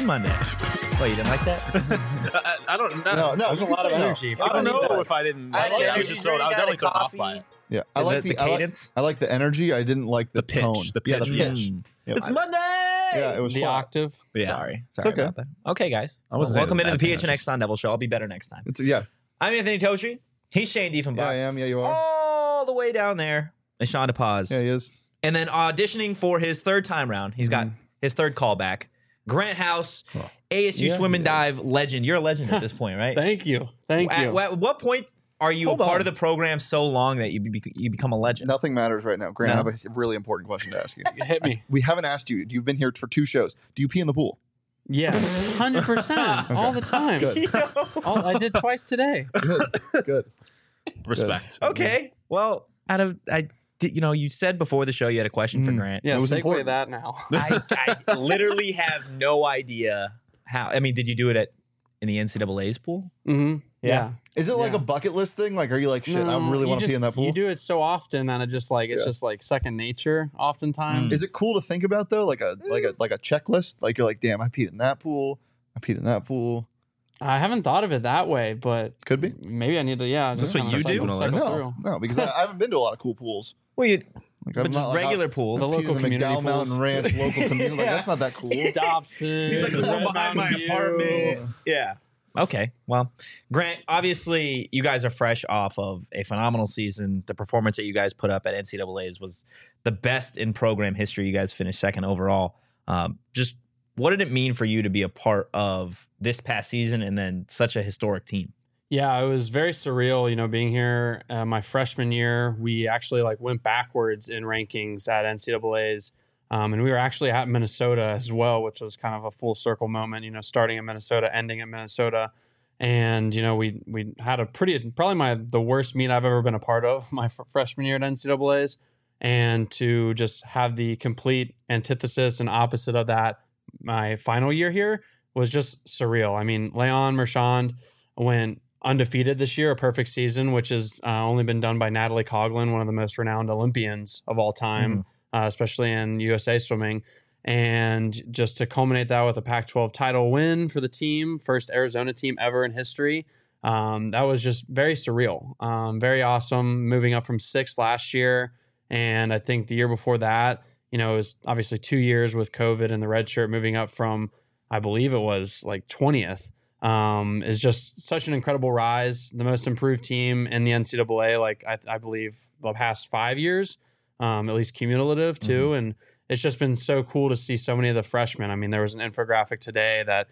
Team Monday. What, you didn't like that? I don't know. No, There's a lot of energy. I don't know if I didn't. I like I was energy just thrown. I was drink, definitely thrown off coffee. by it. Yeah, I like the cadence. I like the energy. I didn't like the pitch. tone. The Yeah, the pitch. pitch. Yep. It's Monday. Yeah, it was The flat. octave. Yeah. Sorry okay. about that. Okay, guys. I wasn't Welcome saying into it the was bad, PHNX Sun Devil Show. I'll be better next time. Yeah, I'm Anthony Toshi. He's Shane Diefenbach. yeah, I am. Yeah, you are. All the way down there is Sean DePaz. Yeah, he is. And then auditioning for his third time round. He's got his third callback. Grant House, ASU Yeah, swim and he is. dive legend. You're a legend at this point, right? Thank you. Thank you. At what point are you Hold a part on. of the program so long that you become a legend? Nothing matters right now. Grant, No? I have a really important question to ask you. Hit me. We haven't asked you. You've been here for 2 shows. Do you pee in the pool? Yes, 100%, all the time. Good. I did twice today. Good. Respect. Okay. Well, you said before the show you had a question for Grant. Yeah, It was segue important. that now. I literally have no idea how. I mean, did you do it in the NCAA's pool? Mm-hmm. Yeah. Is it like Yeah. a bucket list thing? Like, are you like, shit, I No, really you want to pee just- in that pool? You do it so often that it's Yeah. just like second nature oftentimes. Is it cool to think about though? Like a checklist? Like you're like, damn, I peed in that pool. I peed in that pool. I haven't thought of it that way, but Could be. maybe I need to, That's what you do? No, because I haven't been to a lot of cool pools. Well, Like, but just regular pools. The I've local peed in the community McDowell Mountain pools. Ranch local community. Like, that's not that cool. Dobson. He's like the one Red behind my Mountain View. apartment. Yeah. Okay. Well, Grant, obviously you guys are fresh off of a phenomenal season. The performance that you guys put up at NCAA's was the best in program history. You guys finished second overall. Just what did it mean for you to be a part of this past season and then such a historic team? Yeah, it was very surreal, being here my freshman year. We actually went backwards in rankings at NCAA's. And we were actually at Minnesota as well, which was kind of a full circle moment, starting in Minnesota, ending at Minnesota. And, we had probably the worst meet I've ever been a part of my freshman year at NCAA's. And to just have the complete antithesis and opposite of that, my final year here was just surreal. I mean, Leon Marchand went undefeated this year, a perfect season, which has only been done by Natalie Coughlin, one of the most renowned Olympians of all time. Especially in USA swimming. And just to culminate that with a Pac-12 title win for the team, first Arizona team ever in history. That was just very surreal, very awesome, moving up from 6th last year. And I think the year before that, it was obviously 2 years with COVID and the red shirt, moving up from, I believe it was 20th, is just such an incredible rise. The most improved team in the NCAA, I believe the past 5 years. At least cumulative too. And it's just been so cool to see so many of the freshmen. I mean, there was an infographic today that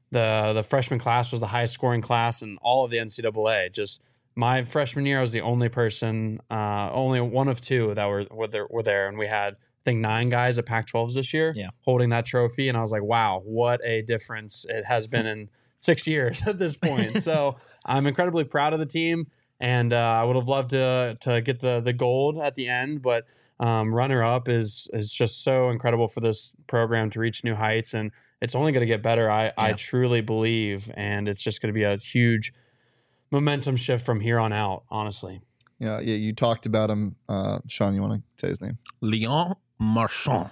the freshman class was the highest scoring class in all of the NCAA. Just my freshman year, I was the only person, only one of 2 that were there. And we had, I think, 9 guys at Pac-12s this year holding that trophy. And I was like, wow, what a difference it has been in 6 years at this point. So I'm incredibly proud of the team. And I would have loved to get the gold at the end, but runner up is just so incredible for this program to reach new heights, and it's only going to get better. I truly believe, and it's just going to be a huge momentum shift from here on out. Honestly, Yeah. You talked about him, Sean. You want to say his name? Leon Marchand.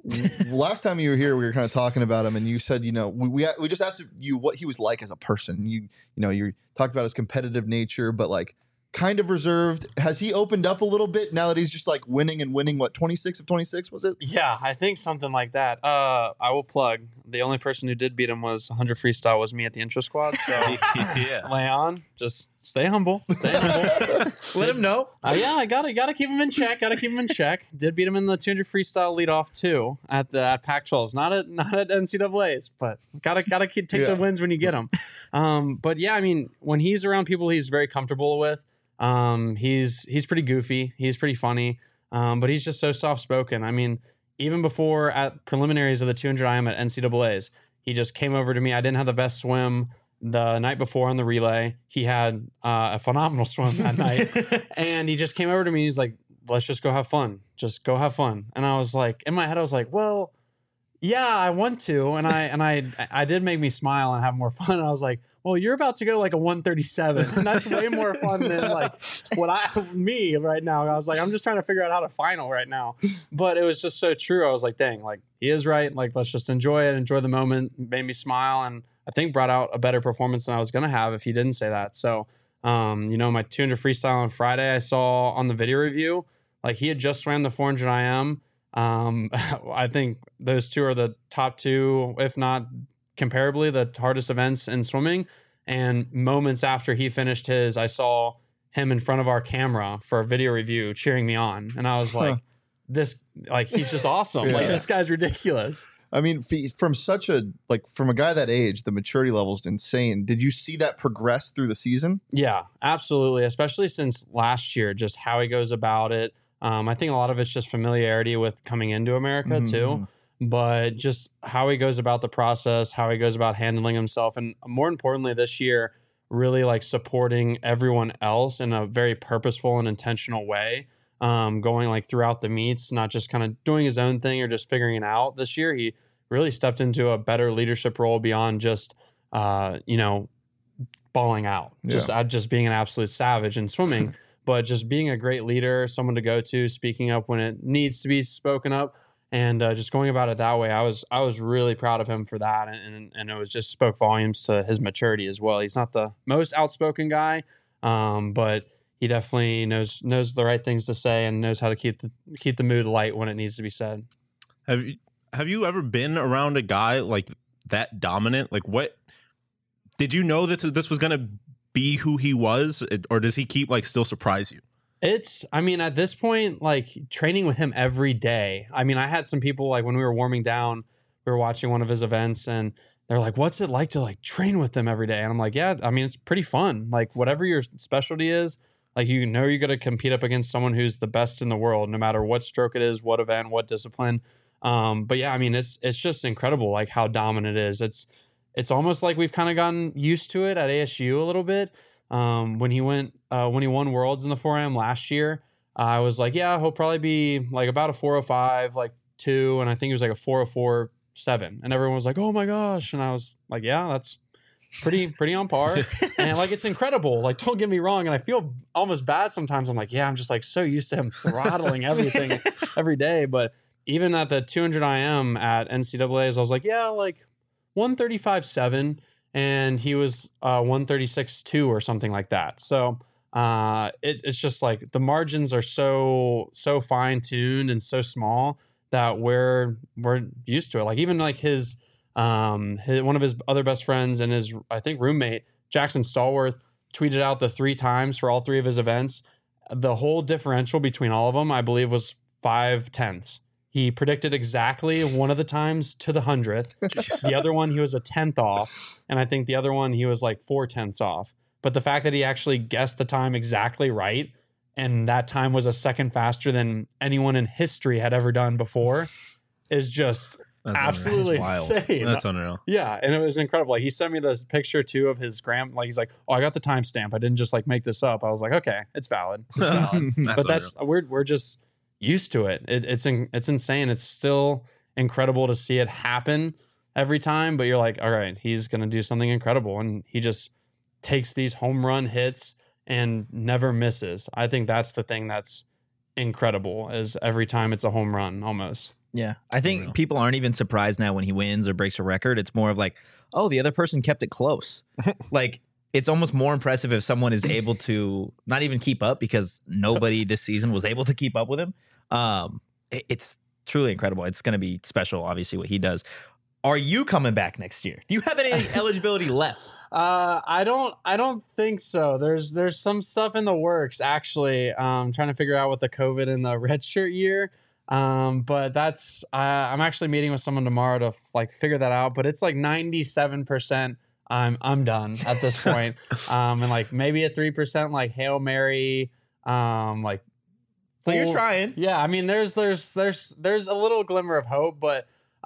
Last time you were here, we were kind of talking about him, and you said, we just asked you what he was like as a person. You talked about his competitive nature, but kind of reserved. Has he opened up a little bit now that he's just winning and winning? What, 26 of 26 was it? yeah, I think something like that. I will plug the only person who did beat him was 100 freestyle was me at the intro squad. So Yeah. Leon, just stay humble. Stay humble. Let him know. Yeah, I gotta keep him in check. Did beat him in the 200 freestyle leadoff too at Pac-12s, not at NCAA's, but gotta take the wins when you get them. But yeah, I mean, when he's around people he's very comfortable with, he's pretty goofy, he's pretty funny, but he's just so soft spoken. I mean, even before at preliminaries of the 200 IM at NCAA's, he just came over to me. I didn't have the best swim the night before on the relay. He had a phenomenal swim that night. And he just came over to me. He's like, let's just go have fun. Just go have fun. And I was like, in my head, I was like, well, yeah, I want to. And I did make me smile and have more fun. And I was like, well, you're about to go like a 137. And that's way more fun than like me right now. I was like, I'm just trying to figure out how to final right now. But it was just so true. I was like, dang, like he is right. Like, let's just enjoy it, enjoy the moment, made me smile. And I think brought out a better performance than I was going to have if he didn't say that. So, my 200 freestyle on Friday, I saw on the video review, like he had just swam the 400 IM. I think those two are the top two, if not comparably the hardest events in swimming. And moments after he finished his, I saw him in front of our camera for a video review cheering me on. And I was like, he's just awesome. Yeah. Like, this guy's ridiculous. I mean, from a guy that age, the maturity level is insane. Did you see that progress through the season? Yeah, absolutely. Especially since last year, just how he goes about it. I think a lot of it's just familiarity with coming into America too, but just how he goes about the process, how he goes about handling himself. And more importantly, this year, really like supporting everyone else in a very purposeful and intentional way. Going like throughout the meets, not just kind of doing his own thing or just figuring it out. This year, he really stepped into a better leadership role beyond just, balling out, just being an absolute savage in swimming, but just being a great leader, someone to go to, speaking up when it needs to be spoken up, and just going about it that way. I was really proud of him for that, and it was just spoke volumes to his maturity as well. He's not the most outspoken guy, but he definitely knows the right things to say and knows how to keep the mood light when it needs to be said. Have you ever been around a guy like that dominant? Like, what did you know that this was going to be who he was, or does he keep like still surprise you? At this point, like training with him every day. I mean, I had some people like when we were warming down, we were watching one of his events and they're like, what's it like to like train with them every day? And I'm like, yeah, I mean, it's pretty fun. Like whatever your specialty is, like, you're going to compete up against someone who's the best in the world, no matter what stroke it is, what event, what discipline. But yeah, I mean, it's just incredible, like how dominant it is. It's almost like we've kind of gotten used to it at ASU a little bit. When he won Worlds in the 4am last year, I was like, yeah, he'll probably be like about a 405, like 2, and I think he was like a 404.7, and everyone was like, oh my gosh, and I was like, yeah, that's pretty on par. And like, it's incredible. Like, don't get me wrong. And I feel almost bad sometimes. I'm like, yeah, I'm just like so used to him throttling everything every day. But even at the 200 IM at NCAAs, I was like, yeah, like 135.7. And he was 136.2 or something like that. So it's just like the margins are so fine tuned and so small that we're used to it. Like even like his one of his other best friends and his, I think, roommate, Jackson Stallworth, tweeted out the 3 times for all 3 of his events. The whole differential between all of them, I believe, was 0.5. He predicted exactly one of the times to the 100th. The other one, he was a 10th off. And I think the other one, he was like 0.4 off. But the fact that he actually guessed the time exactly right, and that time was a second faster than anyone in history had ever done before, is just... That's absolutely insane. That's unreal. Yeah, and it was incredible. Like he sent me this picture too of his like he's like, oh, I got the timestamp. I didn't just like make this up. I was like, okay, it's valid. It's valid. But that's we're just used to it. It's insane. It's still incredible to see it happen every time. But you're like, all right, he's gonna do something incredible, and he just takes these home run hits and never misses. I think that's the thing that's incredible. Is every time it's a home run almost. Yeah, I think people aren't even surprised now when he wins or breaks a record. It's more of like, oh, the other person kept it close. Like, it's almost more impressive if someone is able to not even keep up, because nobody this season was able to keep up with him. It's truly incredible. It's going to be special, obviously, what he does. Are you coming back next year? Do you have any eligibility left? I don't think so. There's some stuff in the works, actually. Trying to figure out with the COVID and the redshirt year. But that's, I'm actually meeting with someone tomorrow to like figure that out, but it's like 97%. I'm done at this point. And like maybe a 3% like Hail Mary, like, well, you're trying. Yeah. I mean, there's a little glimmer of hope, but,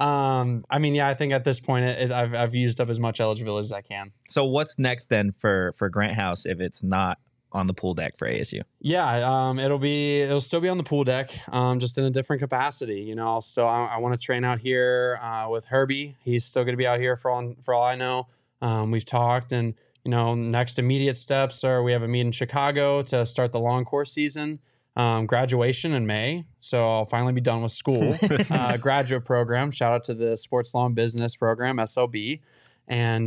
I mean, yeah, I think at this point I've used up as much eligibility as I can. So what's next then for Grant House if it's not on the pool deck for ASU? Yeah, it'll still be on the pool deck, just in a different capacity. You know, I want to train out here with Herbie. He's still going to be out here for all I know. We've talked, and next immediate steps are we have a meet in Chicago to start the long course season. Graduation in May, so I'll finally be done with school. Graduate program. Shout out to the Sports Law and Business program, SLB, and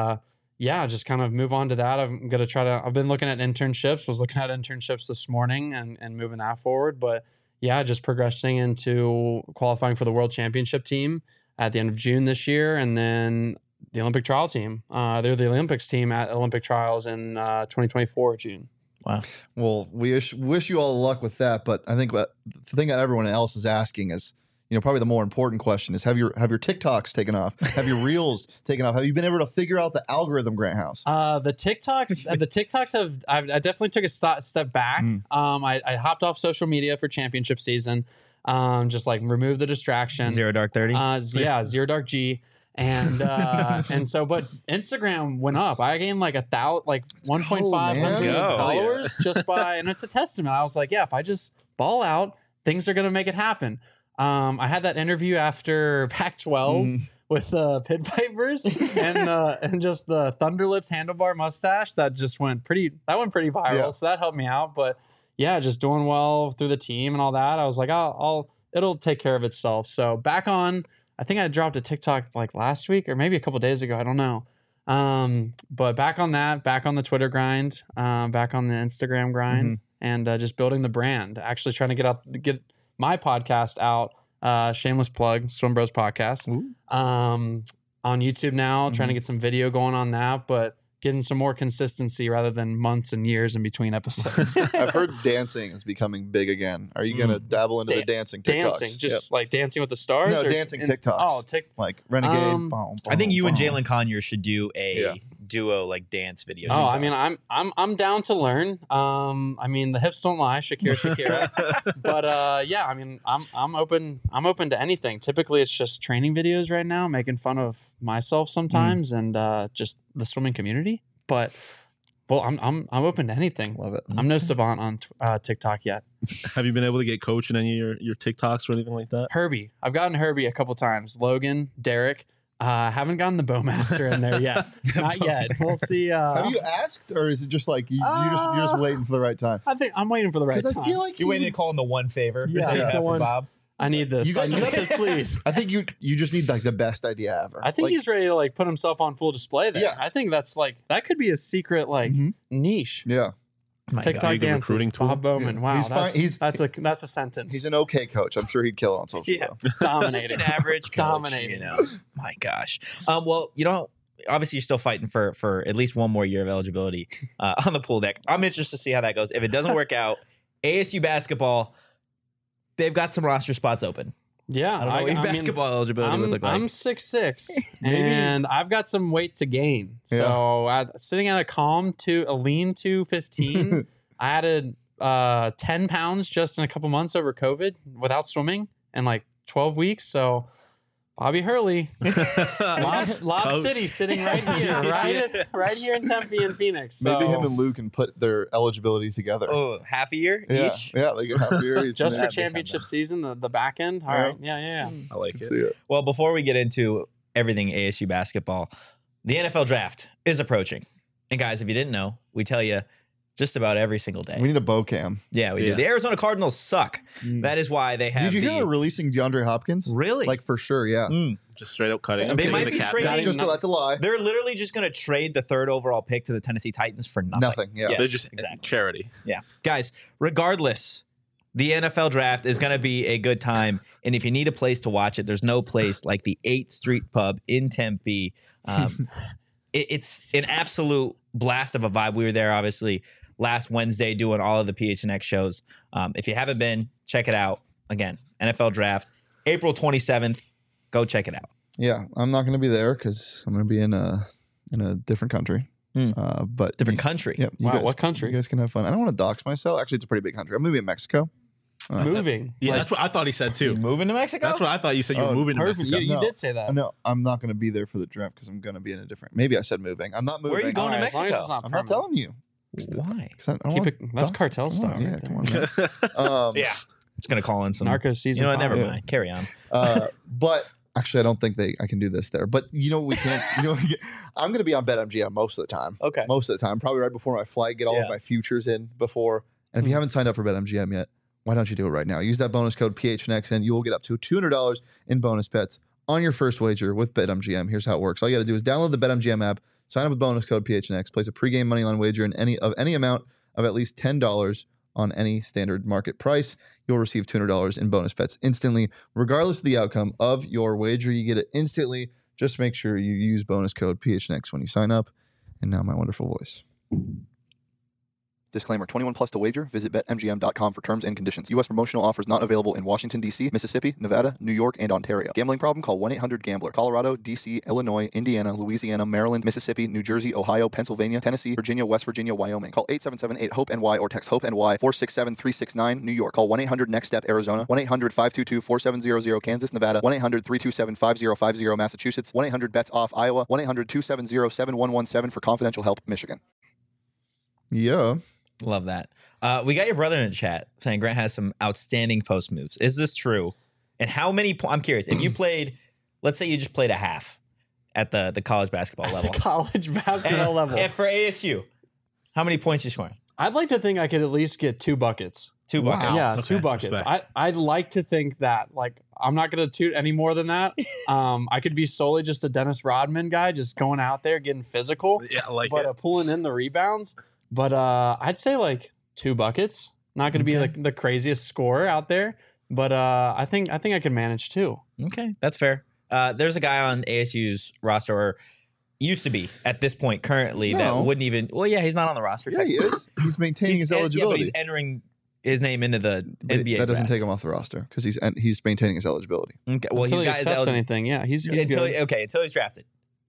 just kind of move on to that. I'm gonna I've been looking at internships. Was looking at internships this morning and moving that forward. But yeah, just progressing into qualifying for the World Championship team at the end of June this year, and then the Olympic trial team. They're the Olympics team at Olympic trials in 2024 June. Wow. Well, we wish you all the luck with that. But I think the thing that everyone else is asking is, probably the more important question is, have your TikToks taken off? Have your Reels taken off? Have you been able to figure out the algorithm, Grant House? The TikToks have, I definitely took a step back. I hopped off social media for championship season. Just like remove the distraction. Zero Dark 30. Zero Dark G. And but Instagram went up. I gained like 1.5 million followers just by, and it's a testament. I was like, yeah, if I just ball out, things are gonna make it happen. I had that interview after Pac-12s with Pit Vipers and just the Thunderlips handlebar mustache that went pretty viral. Yeah. So that helped me out. But yeah, just doing well through the team and all that. I was like, it'll take care of itself. So back on. I think I dropped a TikTok like last week or maybe a couple of days ago. I don't know. But back on that, back on the Twitter grind, back on the Instagram grind, and just building the brand. Actually trying to get my podcast out. Shameless plug, Swim Bros Podcast. On YouTube now, trying to get some video going on that, but getting some more consistency rather than months and years in between episodes. I've heard dancing is becoming big again. Are you going to dabble into the dancing TikToks? Dancing, just like Dancing with the Stars? No, dancing TikToks. Oh, like Renegade. I think you and Jalen Conyers should do a duo like dance video. Oh, I mean, I'm down to learn. I mean, the hips don't lie, Shakira. But I mean, I'm open to anything. Typically, it's just training videos right now, making fun of myself sometimes, and just the swimming community. But I'm open to anything. Love it. I'm no savant on TikTok yet. Have you been able to get coached in any of your TikToks or anything like that? Herbie, I've gotten Herbie a couple times. Logan, Derek. Haven't gotten the Bowmaster in there yet. Not yet. We'll see. Have you asked, or is it just like you're just waiting for the right time? I think I'm waiting for the right time. Because I feel like you're waiting to call in the one favor. Yeah, that you have for Bob. I need this. Please. I think you just need like the best idea ever. I think he's ready to like put himself on full display there. Yeah. I think that's like that could be a secret like niche. Yeah. TikTok dancing, recruiting tool. Bob Bowman. Yeah. Wow, He's fine. that's a sentence. He's an okay coach. I'm sure he'd kill it on social. Yeah. Though. Dominating. Just an average coach, Dominating. My gosh. Well, obviously you're still fighting for at least one more year of eligibility on the pool deck. I'm interested to see how that goes. If it doesn't work out, ASU basketball, they've got some roster spots open. Yeah, I don't know what your basketball eligibility would look like. I'm 6'6", and I've got some weight to gain. So sitting at a lean 215, I added 10 pounds just in a couple months over COVID without swimming in like 12 weeks. So Bobby Hurley, Lob City, sitting right here, right here in Tempe and Phoenix. So, maybe him and Luke can put their eligibility together. Oh, half a year each? Yeah, they get half a year each. Just for championship season, the back end. All right, yeah. I like it. See it. Well, before we get into everything ASU basketball, the NFL draft is approaching. And guys, if you didn't know, we tell you just about every single day. We need a bow cam. Yeah, we do. The Arizona Cardinals suck. That is why they have. Did you hear they're releasing DeAndre Hopkins? Really? Like for sure, yeah. Just straight up cutting. They might be trading. That's a lie. They're literally just going to trade the 3rd overall pick to the Tennessee Titans for nothing. Nothing, yeah. Yes, They're just exactly. charity. Yeah. Guys, regardless, the NFL draft is going to be a good time. And if you need a place to watch it, there's no place like the 8th Street Pub in Tempe. It's an absolute blast of a vibe. We were there, obviously, last Wednesday doing all of the PHNX shows. If you haven't been, check it out. Again, NFL draft, April 27th. Go check it out. Yeah, I'm not going to be there because I'm going to be in a different country. But Different country. Yeah. Wow, what country? You guys can have fun. I don't want to dox myself. Actually, it's a pretty big country. I'm going to be in Mexico. Moving. Yeah, that's what I thought he said too. Moving to Mexico? That's what I thought you said. You were moving to Perfect. Mexico. You No. did say that. No, I'm not going to be there for the draft because I'm going to be in a different. Maybe I said moving. I'm not moving. Where are you going All to right, as long as Mexico? it's not I'm not permanent. telling you. Why? 'Cause I don't Keep wanna it- that's dox- cartel come style on, Yeah, right come on. Man. Yeah. Just going to call in some. Narcos season. You know what? Never 5. mind. Carry on. But Actually, I don't think I can do this there. But you know what we can't. I'm going to be on BetMGM most of the time. Okay. Most of the time, probably right before my flight. Get all of my futures in before. And if you haven't signed up for BetMGM yet, why don't you do it right now? Use that bonus code PHNX, and you will get up to $200 in bonus bets on your first wager with BetMGM. Here's how it works. All you got to do is download the BetMGM app, sign up with bonus code PHNX, place a pregame moneyline wager in any amount of at least $10 on any standard market price. You'll receive $200 in bonus bets instantly, regardless of the outcome of your wager. You get it instantly. Just make sure you use bonus code PHNX when you sign up. And now my wonderful voice. Disclaimer, 21 plus to wager. Visit BetMGM.com for terms and conditions. U.S. promotional offers not available in Washington, D.C., Mississippi, Nevada, New York, and Ontario. Gambling problem? Call 1-800-GAMBLER. Colorado, D.C., Illinois, Indiana, Louisiana, Maryland, Mississippi, New Jersey, Ohio, Pennsylvania, Tennessee, Virginia, West Virginia, Wyoming. Call 877-8-HOPE-NY or text HOPE-NY 467-369, New York. Call 1-800-NEXT-STEP, Arizona. 1-800-522-4700, Kansas, Nevada. 1-800-327-5050, Massachusetts. 1-800-BETS-OFF, Iowa. 1-800-270-7117 for confidential help, Michigan. Yeah. Love that. We got your brother in the chat saying Grant has some outstanding post moves. Is this true? And how many? I'm curious. If you played, let's say you just played a half at the college basketball level. College basketball level. And for ASU, how many points you scoring? I'd like to think I could at least get 2 buckets. 2 buckets. Wow. Yeah, Okay, 2 buckets. respect. I'd like to think that. Like, I'm not going to toot any more than that. I could be solely just a Dennis Rodman guy, just going out there getting physical, Yeah, like but pulling in the rebounds. But I'd say like 2 buckets. Not going to be like the craziest scorer out there, but I think I can manage 2. Okay, that's fair. There's a guy on ASU's roster, or used to be at this point currently, that No. wouldn't even. Well, yeah, he's not on the roster. Yeah, he is. He's maintaining his Yeah, but eligibility. he's entering his name into the But NBA. that doesn't draft. take him off the roster because he's maintaining his eligibility. Okay, well, Until he's he got his accepts eligibility. anything, yeah, he's Until good. until he's drafted.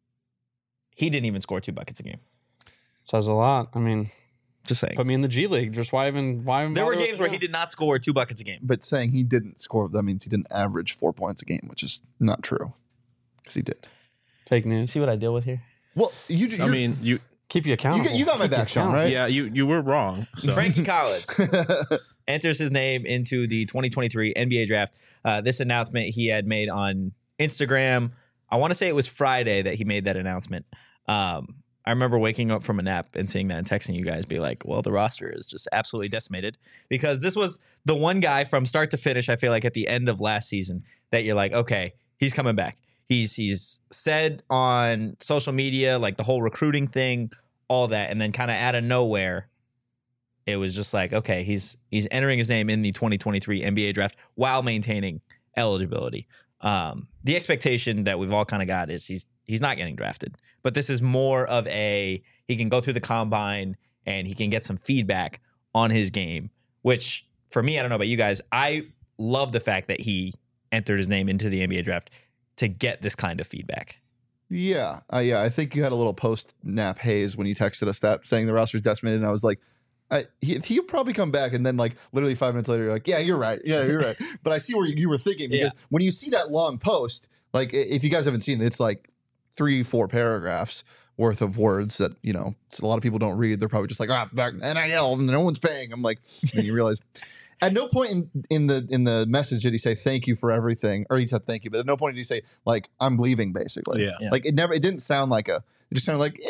He didn't even score 2 buckets a game. Says a lot. I mean, Just saying. put me in the G League. Just why even There were bother with games where he that? did not score 2 buckets a game. But saying he didn't score, that means he didn't average 4 points a game, which is not true because he did. Fake You news. see what I deal with here? Well, I mean, you Keep you accountable. you got my Keep you back, Sean, accountable. right? yeah, you were wrong. So Frankie Collins enters his name into the 2023 NBA draft. This announcement he had made on Instagram. I want to say it was Friday that he made that announcement. I remember waking up from a nap and seeing that and texting you guys, be like, well, the roster is just absolutely decimated, because this was the one guy from start to finish, I feel like at the end of last season, that you're like, okay, he's coming back. He's said on social media, like the whole recruiting thing, all that, and then kind of out of nowhere, it was just like, okay, he's entering his name in the 2023 NBA draft while maintaining eligibility. The expectation that we've all kind of got is he's not getting drafted, but this is more of he can go through the combine and he can get some feedback on his game, which for me, I don't know about you guys, I love the fact that he entered his name into the NBA draft to get this kind of feedback. Yeah. I think you had a little post-nap haze when you texted us that saying the roster's decimated, and I was like, he'll probably come back, and then like literally 5 minutes later, you're like, yeah, you're right. But I see where you were thinking, because when you see that long post, like if you guys haven't seen it, it's like 3-4 paragraphs worth of words that, a lot of people don't read. They're probably just like, back NIL, no one's paying. I'm like, and you realize at no point in the message did he say thank you for everything, or he said thank you, but at no point did he say like I'm leaving, basically. Yeah. Like it didn't sound like it just sounded like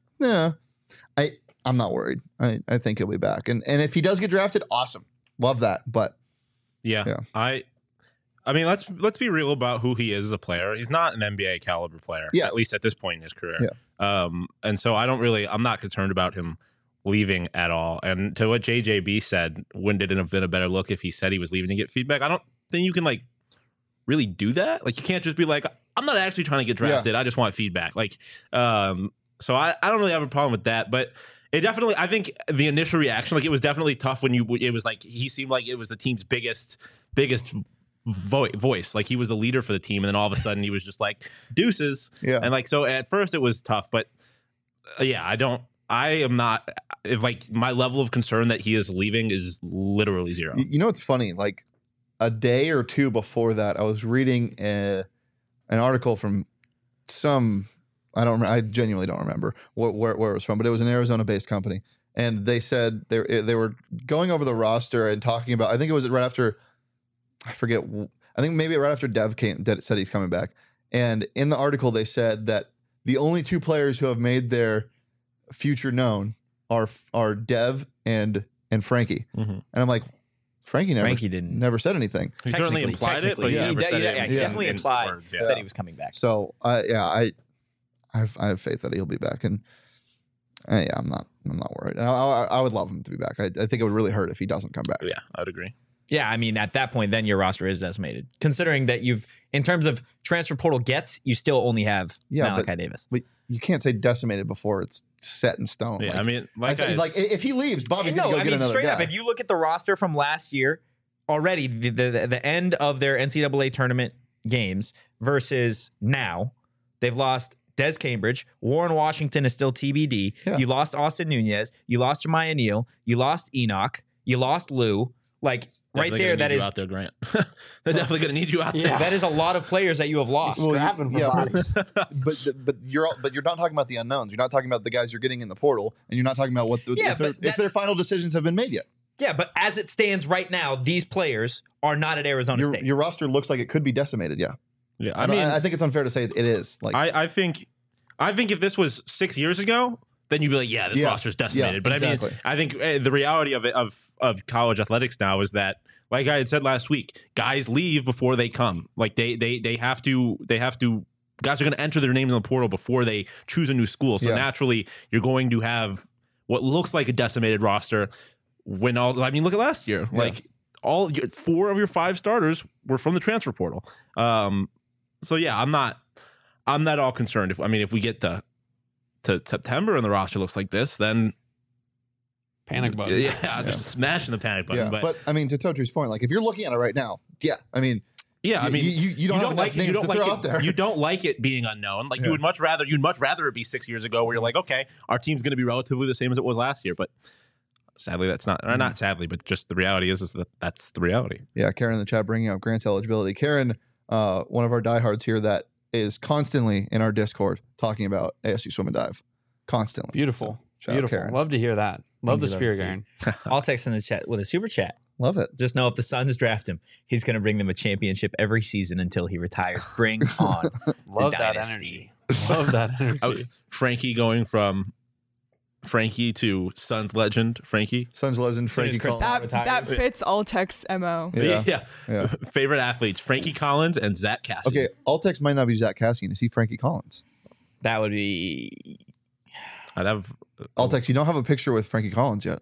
I'm not worried. I think he'll be back, and if he does get drafted, awesome, love that. But Yeah. I mean, let's be real about who he is as a player. He's not an NBA caliber player, Yeah. at least at this point in his career. Yeah. And so I'm not concerned about him leaving at all. And to what JJB said, wouldn't it have been a better look if he said he was leaving to get feedback? I don't think you can like really do that. Like you can't just be like, I'm not actually trying to get drafted. I just want feedback. Like, so I don't really have a problem with that, but it definitely, I think the initial reaction, like it was definitely tough when it was like, he seemed like it was the team's biggest voice. Like he was the leader for the team. And then all of a sudden he was just like deuces. Yeah. And like, so at first it was tough, but I am not, if like my level of concern that he is leaving is literally zero. You know what's funny? Like a day or two before that, I was reading an article from I genuinely don't remember where it was from, but it was an Arizona-based company, and they said they were going over the roster and talking about. I think it was right after, I forget. I think maybe right after Dev said he's coming back, And in the article, they said that the only two players who have made their future known are Dev and Frankie. Mhm. And I'm like, Frankie didn't. never said anything. He certainly implied it, but he Technically, never said it. he definitely in implied words, that he was coming back. So I have faith that he'll be back, and I'm not worried. I would love him to be back. I think it would really hurt if he doesn't come back. Yeah, I would agree. Yeah, I mean, at that point, then your roster is decimated. Considering that in terms of transfer portal gets, you still only have Malachi Davis. But you can't say decimated before it's set in stone. Yeah, Like, I mean, if he leaves, Bobby's going to go get another straight guy. up, if you look at the roster from last year, already the end of their NCAA tournament games versus now, they've lost Des Cambridge. Warren Washington is still TBD. Yeah. You lost Austin Nunez. You lost Jemiah Neal. You lost Enoch. You lost Lou. Like, right Definitely there, gonna that need you is out there, Grant. They're definitely going to need you out there. Yeah. that is a lot of players that you have lost. Well, Scrapping for yeah, bodies. but you're not talking about the unknowns. You're not talking about the guys you're getting in the portal, and you're not talking about if their final decisions have been made yet. Yeah, but as it stands right now, these players are not at Arizona State. Your roster looks like it could be decimated. Yeah, Yeah, I think it's unfair to say it is. Like, I think if this was 6 years ago, then you'd be like, yeah, this roster's decimated. Yeah, but exactly. I think the reality of it of college athletics now is that, like I had said last week, guys leave before they come. Like they have to. Guys are going to enter their names in the portal before they choose a new school. So naturally, you're going to have what looks like a decimated roster. Look at last year. Yeah. Like 4 of your 5 starters were from the transfer portal. So yeah, I'm not all concerned. If we get to September and the roster looks like this, then Panic button. Yeah, just smashing the panic button. yeah. But I mean, to Totri's point, like if you're looking at it right now, you don't have enough names to throw out there. You don't like it being unknown. Like you'd much rather it be 6 years ago where you're like, okay, our team's going to be relatively the same as it was last year. But sadly, that's not, or not sadly, but just the reality is that that's the reality. Yeah, Karen in the chat bringing up Grant's eligibility. Karen, one of our diehards here that is constantly in our Discord talking about ASU swim and dive. Constantly. Beautiful. So, shout out Beautiful. Karen. Love to hear that. Love the Things you spirit, love to Garen. I'll text in the chat with a super chat. Love it. Just know if the Suns draft him, he's going to bring them a championship every season until he retires. Bring on Love the that dynasty. energy. Love that energy. Frankie going from Frankie to Suns legend Frankie. Suns legend Frankie Chris Collins. That fits Altex's MO. Yeah. Yeah. Favorite athletes: Frankie Collins and Zach Cassidy. Okay, Altex might not be Zach Cassian. Is he Frankie Collins? That would be. I'd have Altex, you don't have a picture with Frankie Collins yet.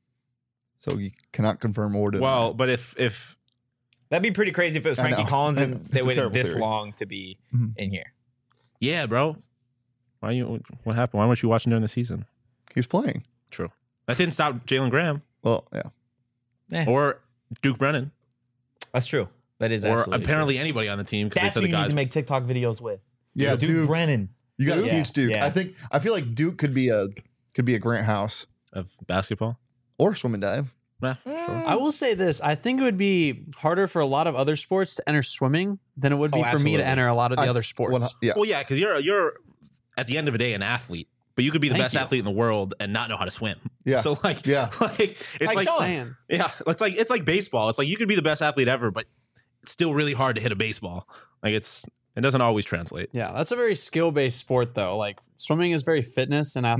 So you cannot confirm or deny. Well, but if That'd be pretty crazy if it was I Frankie know. Collins I and know. they It's a waited terrible this theory. long to be Mhm. in here. yeah, bro, what happened? Why weren't you watching during the season? he was playing. True, that didn't stop Jalen Graham Well, yeah. Eh, or Duke Brennan that's true. That is or absolutely apparently anybody on the team true. because they That's said who the you need guys. to make TikTok videos with. Yeah, Duke. Brennan. You got to Yeah, teach Duke. yeah. I feel like Duke could be a Grant House of basketball. or swim and dive. Yeah, I will say this. I think it would be harder for a lot of other sports to enter swimming than it would be Oh, for me to absolutely. enter a lot of the other sports. Yeah. Well, yeah, because you're at the end of the day an athlete, but you could be the Thank best you. athlete in the world and not know how to swim. Yeah. So like, Yeah. it's like saying. yeah, it's like baseball. It's like you could be the best athlete ever, but it's still really hard to hit a baseball. Like it doesn't always translate. Yeah, that's a very skill-based sport, though. Like swimming is very fitness and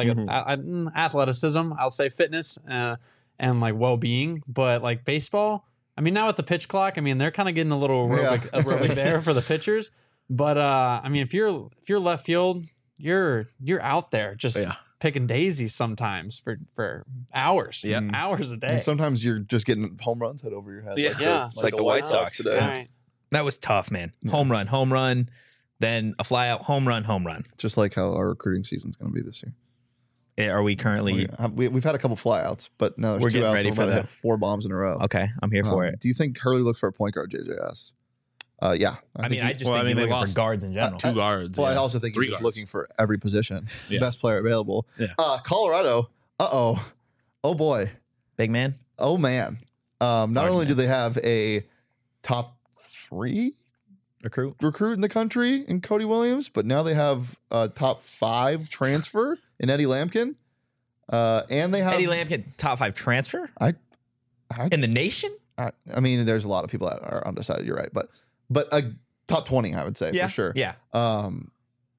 athleticism. I'll say fitness and like well-being. But like baseball, I mean, now with the pitch clock, I mean they're kind of getting a little aerobic there for the pitchers. But I mean, if you're left field, you're out there just picking daisies sometimes for hours, hours a day. And sometimes you're just getting home runs hit over your head. Yeah. Like the White Sox today. All right. That was tough, man. Home run, then a fly out, home run. Just like how our recruiting season's going to be this year. Are we currently We've had a couple flyouts, but now there's We're 2 getting outs. ready We're for about to that. hit 4 bombs in a row. okay? I'm here for it. Do you think Hurley looks for a point guard, JJS? Yeah. I mean, I just well, think I mean, you're they looking for lost guards in general. 2 guards. Well, I yeah. also think 3 he's just guards. looking for every position. Yeah. Best player available. Yeah. Colorado. Oh boy. Big man. Oh man. Not only do they have a top 3 Recruit. recruit in the country in Cody Williams, but now they have a top 5 transfer in Eddie Lampkin. And they have Eddie Lampkin, top 5 transfer I in the nation. mean, there's a lot of people that are undecided. You're right, but a top 20, I would say Yeah, for sure. Yeah. And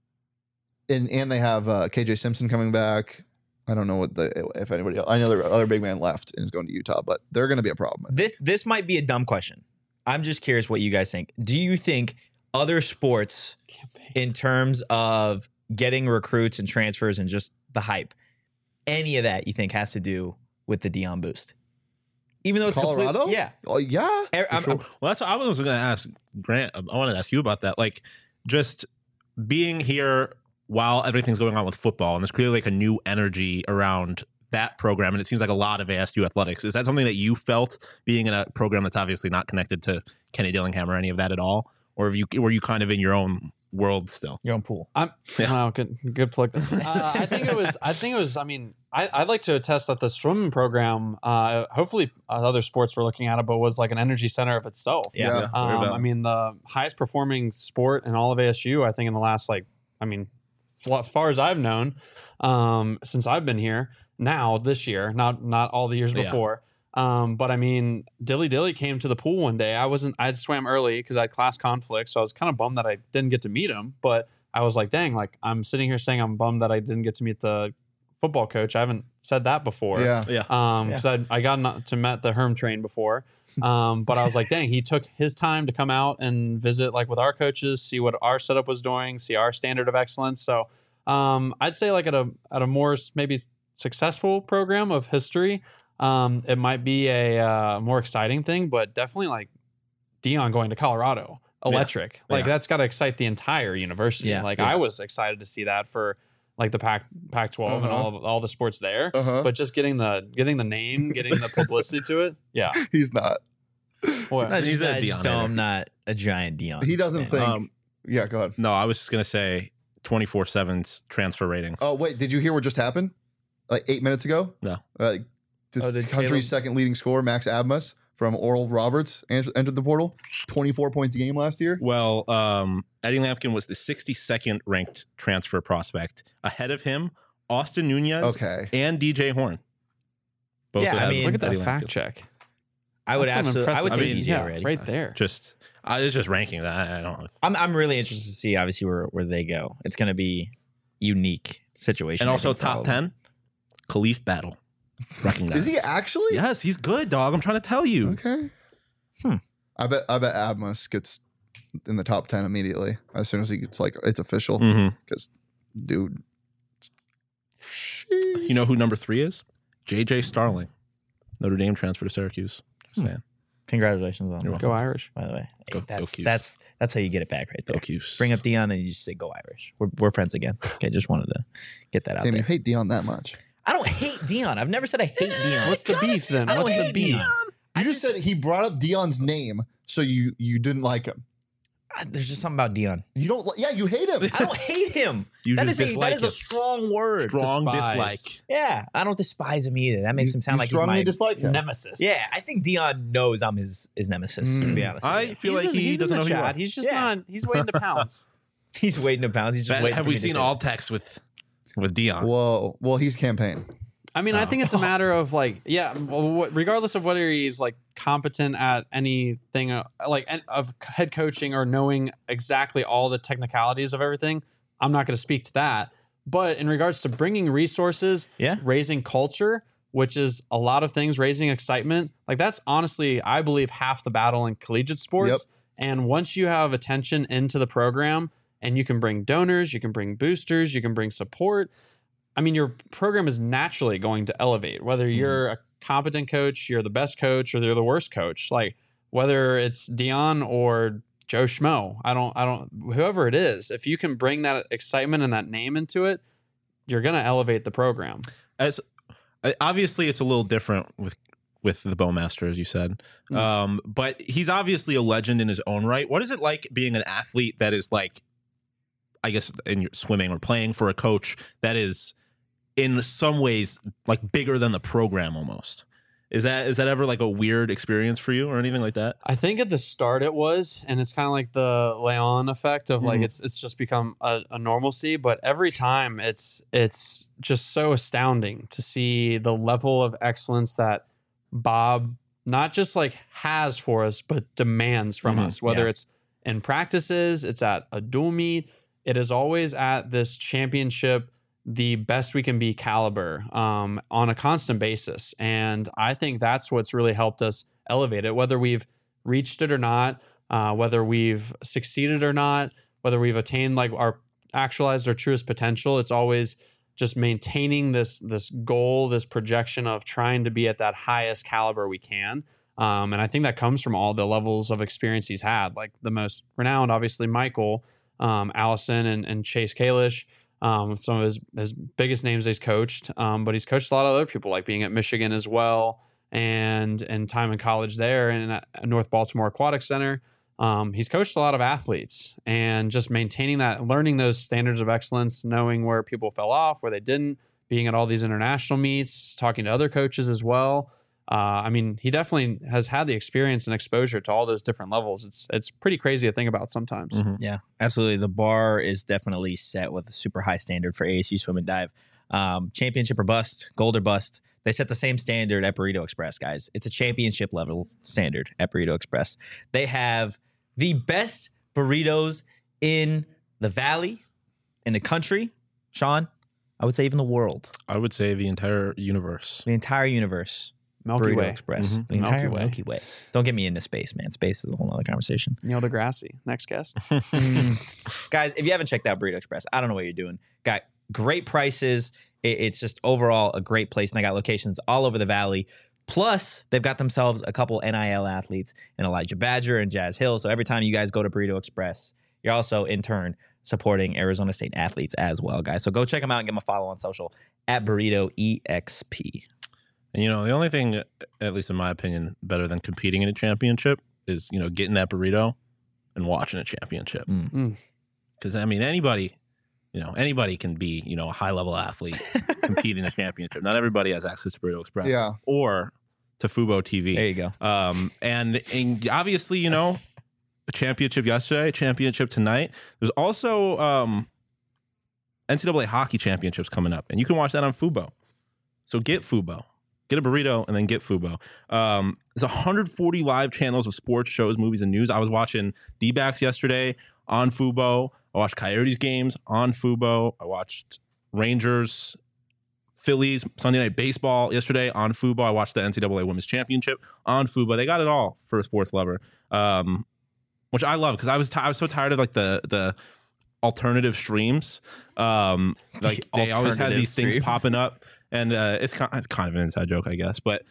they have KJ Simpson coming back. I don't know if anybody else. I know their other big man left and is going to Utah, but they're going to be a problem. This might be a dumb question. I'm just curious what you guys think. Do you think other sports, in terms of getting recruits and transfers and just the hype, any of that you think has to do with the Deion boost? Even though it's Colorado? yeah. Oh yeah. Well, that's what I was going to ask Grant. I wanted to ask you about that. Like, just being here while everything's going on with football, and there's clearly like a new energy around that program, and it seems like a lot of ASU athletics. Is that something that you felt being in a program that's obviously not connected to Kenny Dillingham or any of that at all, or were you kind of in your own world still? Your own pool. Wow, good plug. I think it was. I mean, I'd like to attest that the swimming program, hopefully other sports were looking at it, but was like an energy center of itself. Yeah. I mean, the highest performing sport in all of ASU, I think, in the last as far as I've known, since I've been here. Now this year, not all the years before. But I mean, Dilly came to the pool one day. I swam early because I had class conflicts, so I was kind of bummed that I didn't get to meet him. But I was like, dang, like I'm sitting here saying I'm bummed that I didn't get to meet the football coach. I haven't said that before. Yeah. Because I got to met the Herm train before. But I was like, dang, he took his time to come out and visit like with our coaches, see what our setup was doing, see our standard of excellence. So I'd say like at a more maybe successful program of history, it might be a more exciting thing, but definitely like Deion going to Colorado, electric. Like that's got to excite the entire university. I was excited to see that for like the Pac-12 and all the sports there, but just getting the name, getting the publicity to it. Yeah, he's not. What? He's a Deion. I'm not a giant Deion. He doesn't fan. think. Yeah, go ahead. No, I was just gonna say 24/7's transfer ratings. Oh wait, did you hear what just happened? Like 8 minutes ago? No. This country's second leading scorer, Max Abmas from Oral Roberts, entered the portal. 24 points a game last year. Well, Eddie Lampkin was the 62nd ranked transfer prospect. Ahead of him, Austin Nunez and DJ Horn. Both Yeah, I mean, look at that Eddie fact Lampkin. check. I would That's some absolutely. I would impressive- take DJ yeah, already. right there. Just it's just ranking that. I don't know. I'm really interested to see obviously where they go. It's going to be unique situation. And I also think, for all top of them. 10, Khalif Battle. Recognized. Is he actually? Yes, he's good, dog. I'm trying to tell you. Okay. I bet Abmas gets in the top 10 immediately as soon as he gets like it's official. Mm-hmm. Because, dude, You know who number 3 is? JJ Starling, Notre Dame transfer to Syracuse. Just saying. Congratulations on You're that. Go Irish. By the way, Go Cuse. that's how you get it back right there. Go Cuse. Bring up Deion and you just say go Irish. We're friends again. Okay, just wanted to get that out damn, there. you hate Deion that much. I don't hate Deion. I've never said I hate Deion. What's the beef then? I don't What's the hate beef? Deion. You just said he brought up Deion's name, so you didn't like him. There's just something about Deion. You don't. Yeah, you hate him. I don't hate him. You That just is dislike a him. strong word. Strong Despise. dislike. Yeah, I don't despise him either. That makes him sound you like he's strongly my dislike him. Nemesis. Yeah, I think Deion knows I'm his nemesis. To be honest, with I you. feel like he doesn't know who you are. He's just Yeah. not. He's waiting to pounce. he's waiting to pounce. He's just waiting. Have for we me to seen say all it. texts with Dion? Whoa. Well, he's campaign. I mean, I think it's a matter of like, regardless of whether he's like competent at anything, of head coaching or knowing exactly all the technicalities of everything. I'm not going to speak to that. But in regards to bringing resources, raising culture, which is a lot of things, raising excitement, like that's honestly, I believe, half the battle in collegiate sports. Yep. And once you have attention into the program and you can bring donors, you can bring boosters, you can bring support, I mean, your program is naturally going to elevate, whether you're a competent coach, you're the best coach, or you're the worst coach. Like whether it's Deion or Joe Schmo, whoever it is, if you can bring that excitement and that name into it, you're going to elevate the program. As obviously, it's a little different with the Bowmaster, as you said, but he's obviously a legend in his own right. What is it like being an athlete that is like, I guess, in your swimming or playing for a coach that is in some ways like bigger than the program almost? Is that ever like a weird experience for you or anything like that? I think at the start it was, and it's kind of like the Leon effect of like it's just become a normalcy. But every time it's just so astounding to see the level of excellence that Bob not just like has for us, but demands from us. Whether it's in practices, it's at a dual meet. It is always at this championship, the best we can be caliber on a constant basis. And I think that's what's really helped us elevate it, whether we've reached it or not, whether we've succeeded or not, whether we've attained like actualized our truest potential. It's always just maintaining this goal, this projection of trying to be at that highest caliber we can. And I think that comes from all the levels of experience he's had, like the most renowned, obviously Michael, Allison and Chase Kalish, some of his biggest names he's coached. But he's coached a lot of other people, like being at Michigan as well, and time in college there and at North Baltimore Aquatic Center. He's coached a lot of athletes, and just maintaining that, learning those standards of excellence, knowing where people fell off, where they didn't, being at all these international meets, talking to other coaches as well. I mean, he definitely has had the experience and exposure to all those different levels. It's pretty crazy to think about sometimes. Mm-hmm. Yeah, absolutely. The bar is definitely set with a super high standard for ASU Swim and Dive. Championship or bust, gold or bust. They set the same standard at Burrito Express, guys. It's a championship level standard at Burrito Express. They have the best burritos in the valley, in the country. Sean, I would say even the world. I would say the entire universe. The entire universe. Milky Burrito Way. Express. Mhm. The entire Milky Way. Milky Way. Don't get me into space, man. Space is a whole other conversation. Neil deGrasse, next guest. Guys, if you haven't checked out Burrito Express, I don't know what you're doing. Got great prices. It's just overall a great place. And they got locations all over the valley. Plus, they've got themselves a couple NIL athletes in Elijah Badger and Jazz Hill. So every time you guys go to Burrito Express, you're also in turn supporting Arizona State athletes as well, guys. So go check them out and give them a follow on social at Burrito EXP. And, the only thing, at least in my opinion, better than competing in a championship is, getting that burrito and watching a championship. Because, I mean, anybody can be, a high-level athlete, compete in a championship. Not everybody has access to Burrito Express. Yeah. Or to Fubo TV. There you go. And obviously, a championship yesterday, a championship tonight. There's also NCAA hockey championships coming up, and you can watch that on Fubo. So get Fubo. Get a burrito and then get Fubo. There's 140 live channels of sports, shows, movies, and news. I was watching D-backs yesterday on Fubo. I watched Coyotes games on Fubo. I watched Rangers, Phillies, Sunday Night Baseball yesterday on Fubo. I watched the NCAA Women's Championship on Fubo. They got it all for a sports lover, which I love because I was so tired of like the alternative streams. Like they always had these things popping up. And it's kind of an inside joke, I guess. But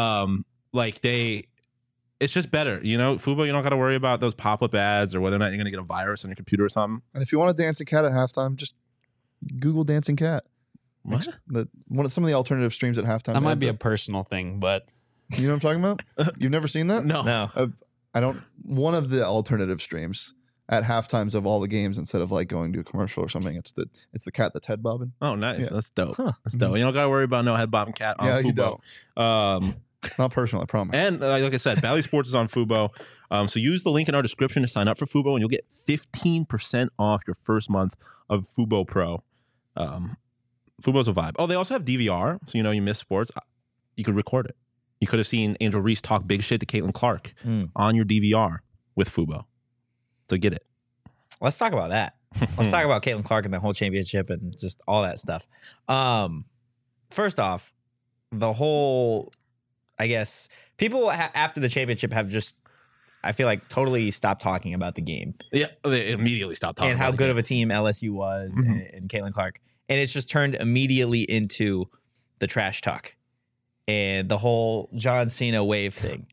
it's just better. Fubo, you don't got to worry about those pop-up ads or whether or not you're going to get a virus on your computer or something. And if you want a dancing cat at halftime, just Google dancing cat. What? Some of the alternative streams at halftime. That might be a personal thing, but You know what I'm talking about? You've never seen that? No. I don't. One of the alternative streams at halftimes of all the games, instead of like going to a commercial or something, it's the cat that's head bobbing. Oh, nice. Yeah. That's dope. Huh. That's dope. You don't got to worry about no head bobbing cat on Yeah, Fubo. you don't. Um, It's not personal, I promise. And like I said, Valley Sports is on Fubo. So use the link in our description to sign up for Fubo, and you'll get 15% off your first month of Fubo Pro. Fubo's a vibe. Oh, they also have DVR. So, you miss sports. You could record it. You could have seen Angel Reese talk big shit to Caitlin Clark on your DVR with Fubo. So get it. Let's talk about that. Let's talk about Caitlin Clark and the whole championship and just all that stuff. First off, the whole, I guess, people after the championship have just, I feel like, totally stopped talking about the game. Yeah, they immediately stopped talking and how about good it. of a team LSU was Mhm. and Caitlin Clark. And it's just turned immediately into the trash talk and the whole John Cena wave thing.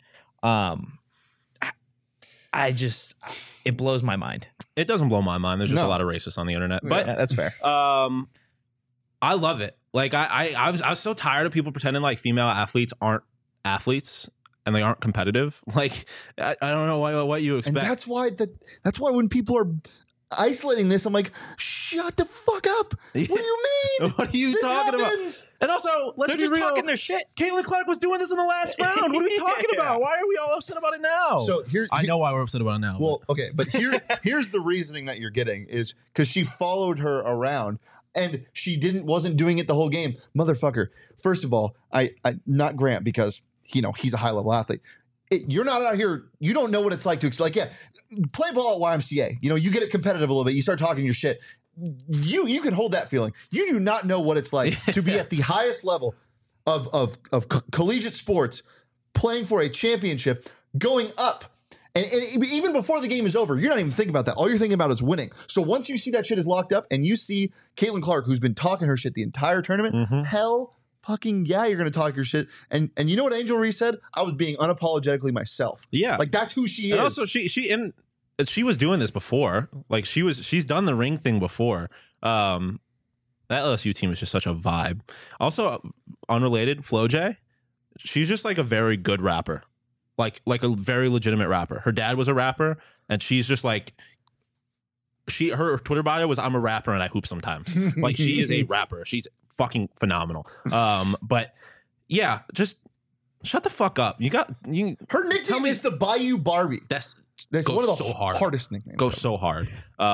It blows my mind. It doesn't blow my mind. There's just No. a lot of racists on the internet. But Yeah, that's fair. I love it. Like I was so tired of people pretending like female athletes aren't athletes and they aren't competitive. Like I don't know what you And expect. that's why when people are isolating this, I'm like, shut the fuck up. What do you mean? What are you This talking happens. about? And also, let's They're be just real. talking their shit. Caitlin Clark was doing this in the last round. What are we talking Yeah. about? Why are we all upset about it now? So I know why we're upset about it now. Well, okay, but here's the reasoning that you're getting is because she followed her around and she wasn't doing it the whole game. Motherfucker. First of all, I not Grant because he's a high level athlete. you're not out here. You don't know what it's like to like. Yeah, play ball at YMCA. You know, you get it competitive a little bit. You start talking your shit. You can hold that feeling. You do not know what it's like to be at the highest level of collegiate sports, playing for a championship, going up. And even before the game is over, you're not even thinking about that. All you're thinking about is winning. So once you see that shit is locked up and you see Caitlin Clark, who's been talking her shit the entire tournament, hell fucking yeah, you're going to talk your shit. And you know what Angel Reese said? I was being unapologetically myself. Yeah. Like, that's who she is. And also, she was doing this before. Like, she's done the ring thing before. That LSU team is just such a vibe. Also, unrelated, FloJ, she's just like a very good rapper. Like a very legitimate rapper. Her dad was a rapper, and she's just like, her Twitter bio was, I'm a rapper and I hoop sometimes. Like, she is a rapper. She's fucking phenomenal. But yeah, just shut the fuck up. Her nickname is the Bayou Barbie. That's one of the hardest nicknames. Goes so hard.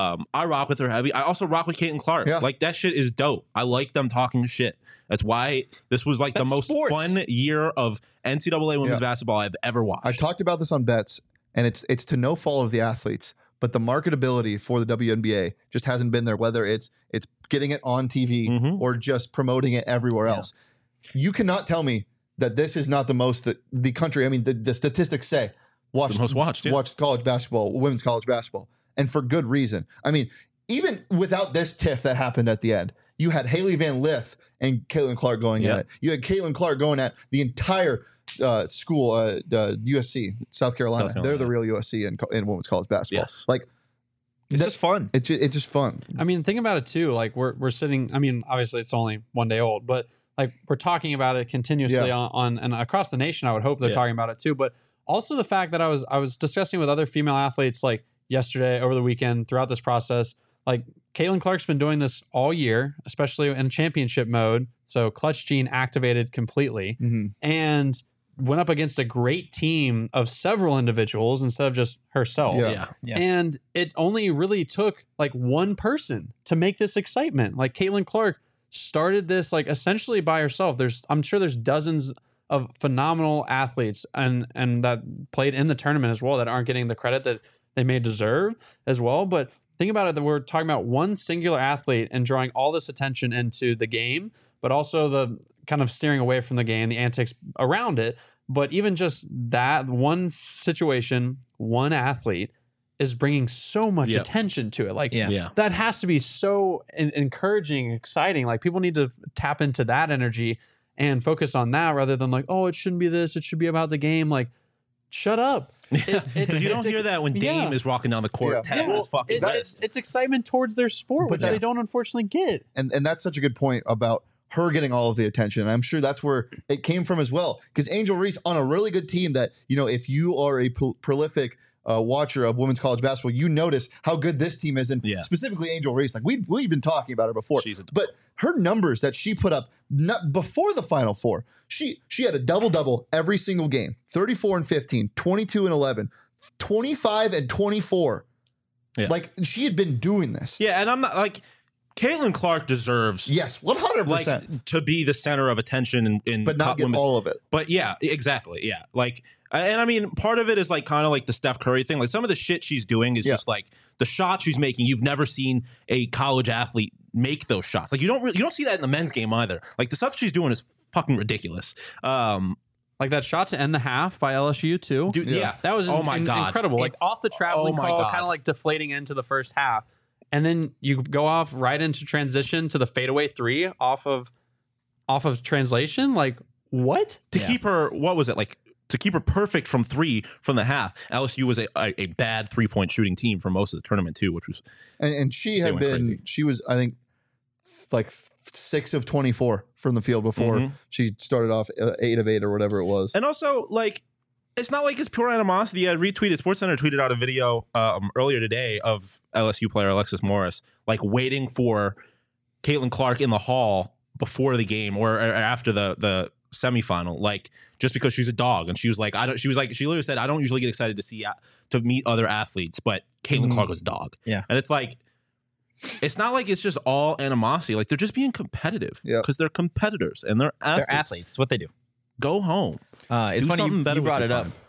I rock with her heavy. I also rock with Caitlin Clark. Yeah. Like, that shit is dope. I like them talking shit. That's why this was like the most fun year of NCAA women's basketball I've ever watched. I've talked about this on Bets, and it's to no fault of the athletes, but the marketability for the WNBA just hasn't been there, whether it's getting it on TV or just promoting it everywhere else. You cannot tell me that this is not the most that the country, I mean, the statistics say, it's the most watched, watch college basketball, women's college basketball, and for good reason. I mean, even without this tiff that happened at the end, you had Haley Van Lith and Caitlin Clark going at it. You had Caitlin Clark going at the entire school, USC, South Carolina. They're the real USC in women's college basketball. Yes. Like, it's just fun. It's just fun. I mean, think about it too. Like, we're sitting. I mean, obviously it's only one day old, but like, we're talking about it continuously on and across the nation. I would hope they're talking about it too. But also the fact that I was discussing with other female athletes like yesterday, over the weekend, throughout this process. Like, Caitlin Clark's been doing this all year, especially in championship mode. So clutch gene activated completely, and went up against a great team of several individuals instead of just herself. Yeah. And it only really took like one person to make this excitement. Like, Caitlin Clark started this like essentially by herself. I'm sure there's dozens of phenomenal athletes and that played in the tournament as well that aren't getting the credit that they may deserve as well. But think about it, that we're talking about one singular athlete and drawing all this attention into the game, but also the kind of steering away from the game, the antics around it. But even just that one situation, one athlete is bringing so much attention to it. Like, that has to be so encouraging, exciting. Like, people need to tap into that energy and focus on that rather than like, oh, it shouldn't be this, it should be about the game. Like, shut up. Because you don't hear that when Dame is walking down the court. It's excitement towards their sport, which they don't unfortunately get. And that's such a good point about her getting all of the attention. And I'm sure that's where it came from as well. Because Angel Reese on a really good team that, you know, if you are a prolific watcher of women's college basketball, you notice how good this team is. And specifically Angel Reese, like we've been talking about her before. But her numbers that she put up before the Final Four, she had a double-double every single game. 34 and 15, 22 and 11, 25 and 24. Yeah. Like, she had been doing this. Yeah, and I'm not like, Caitlin Clark deserves 100% like to be the center of attention in but not get all of it. But yeah, exactly. Yeah. Like, and I mean, part of it is like kind of like the Steph Curry thing. Like, some of the shit she's doing is just like the shots she's making. You've never seen a college athlete make those shots. Like, you don't see that in the men's game either. Like, the stuff she's doing is fucking ridiculous. Like that shot to end the half by LSU too. Dude, that was incredible. Like, off the traveling call, kind of like deflating into the first half. And then you go off right into transition to the fadeaway three off of translation. Like, what? To keep her, what was it? Like, to keep her perfect from three from the half. LSU was a bad 3-point shooting team for most of the tournament too, which was and she had been crazy. She was, I think, like 6 of 24 from the field before she started off 8 of 8 or whatever it was. And also, like, it's not like it's pure animosity. I retweeted, SportsCenter tweeted out a video earlier today of LSU player Alexis Morris, like, waiting for Caitlin Clark in the hall before the game or after the semifinal, like, just because she's a dog. And she was like, she literally said, I don't usually get excited to meet other athletes, but Caitlin Clark was a dog. Yeah. And it's like, it's not like it's just all animosity. Like, they're just being competitive because they're competitors and they're athletes. They're athletes. It's what they do. Go home. It's funny you brought it up.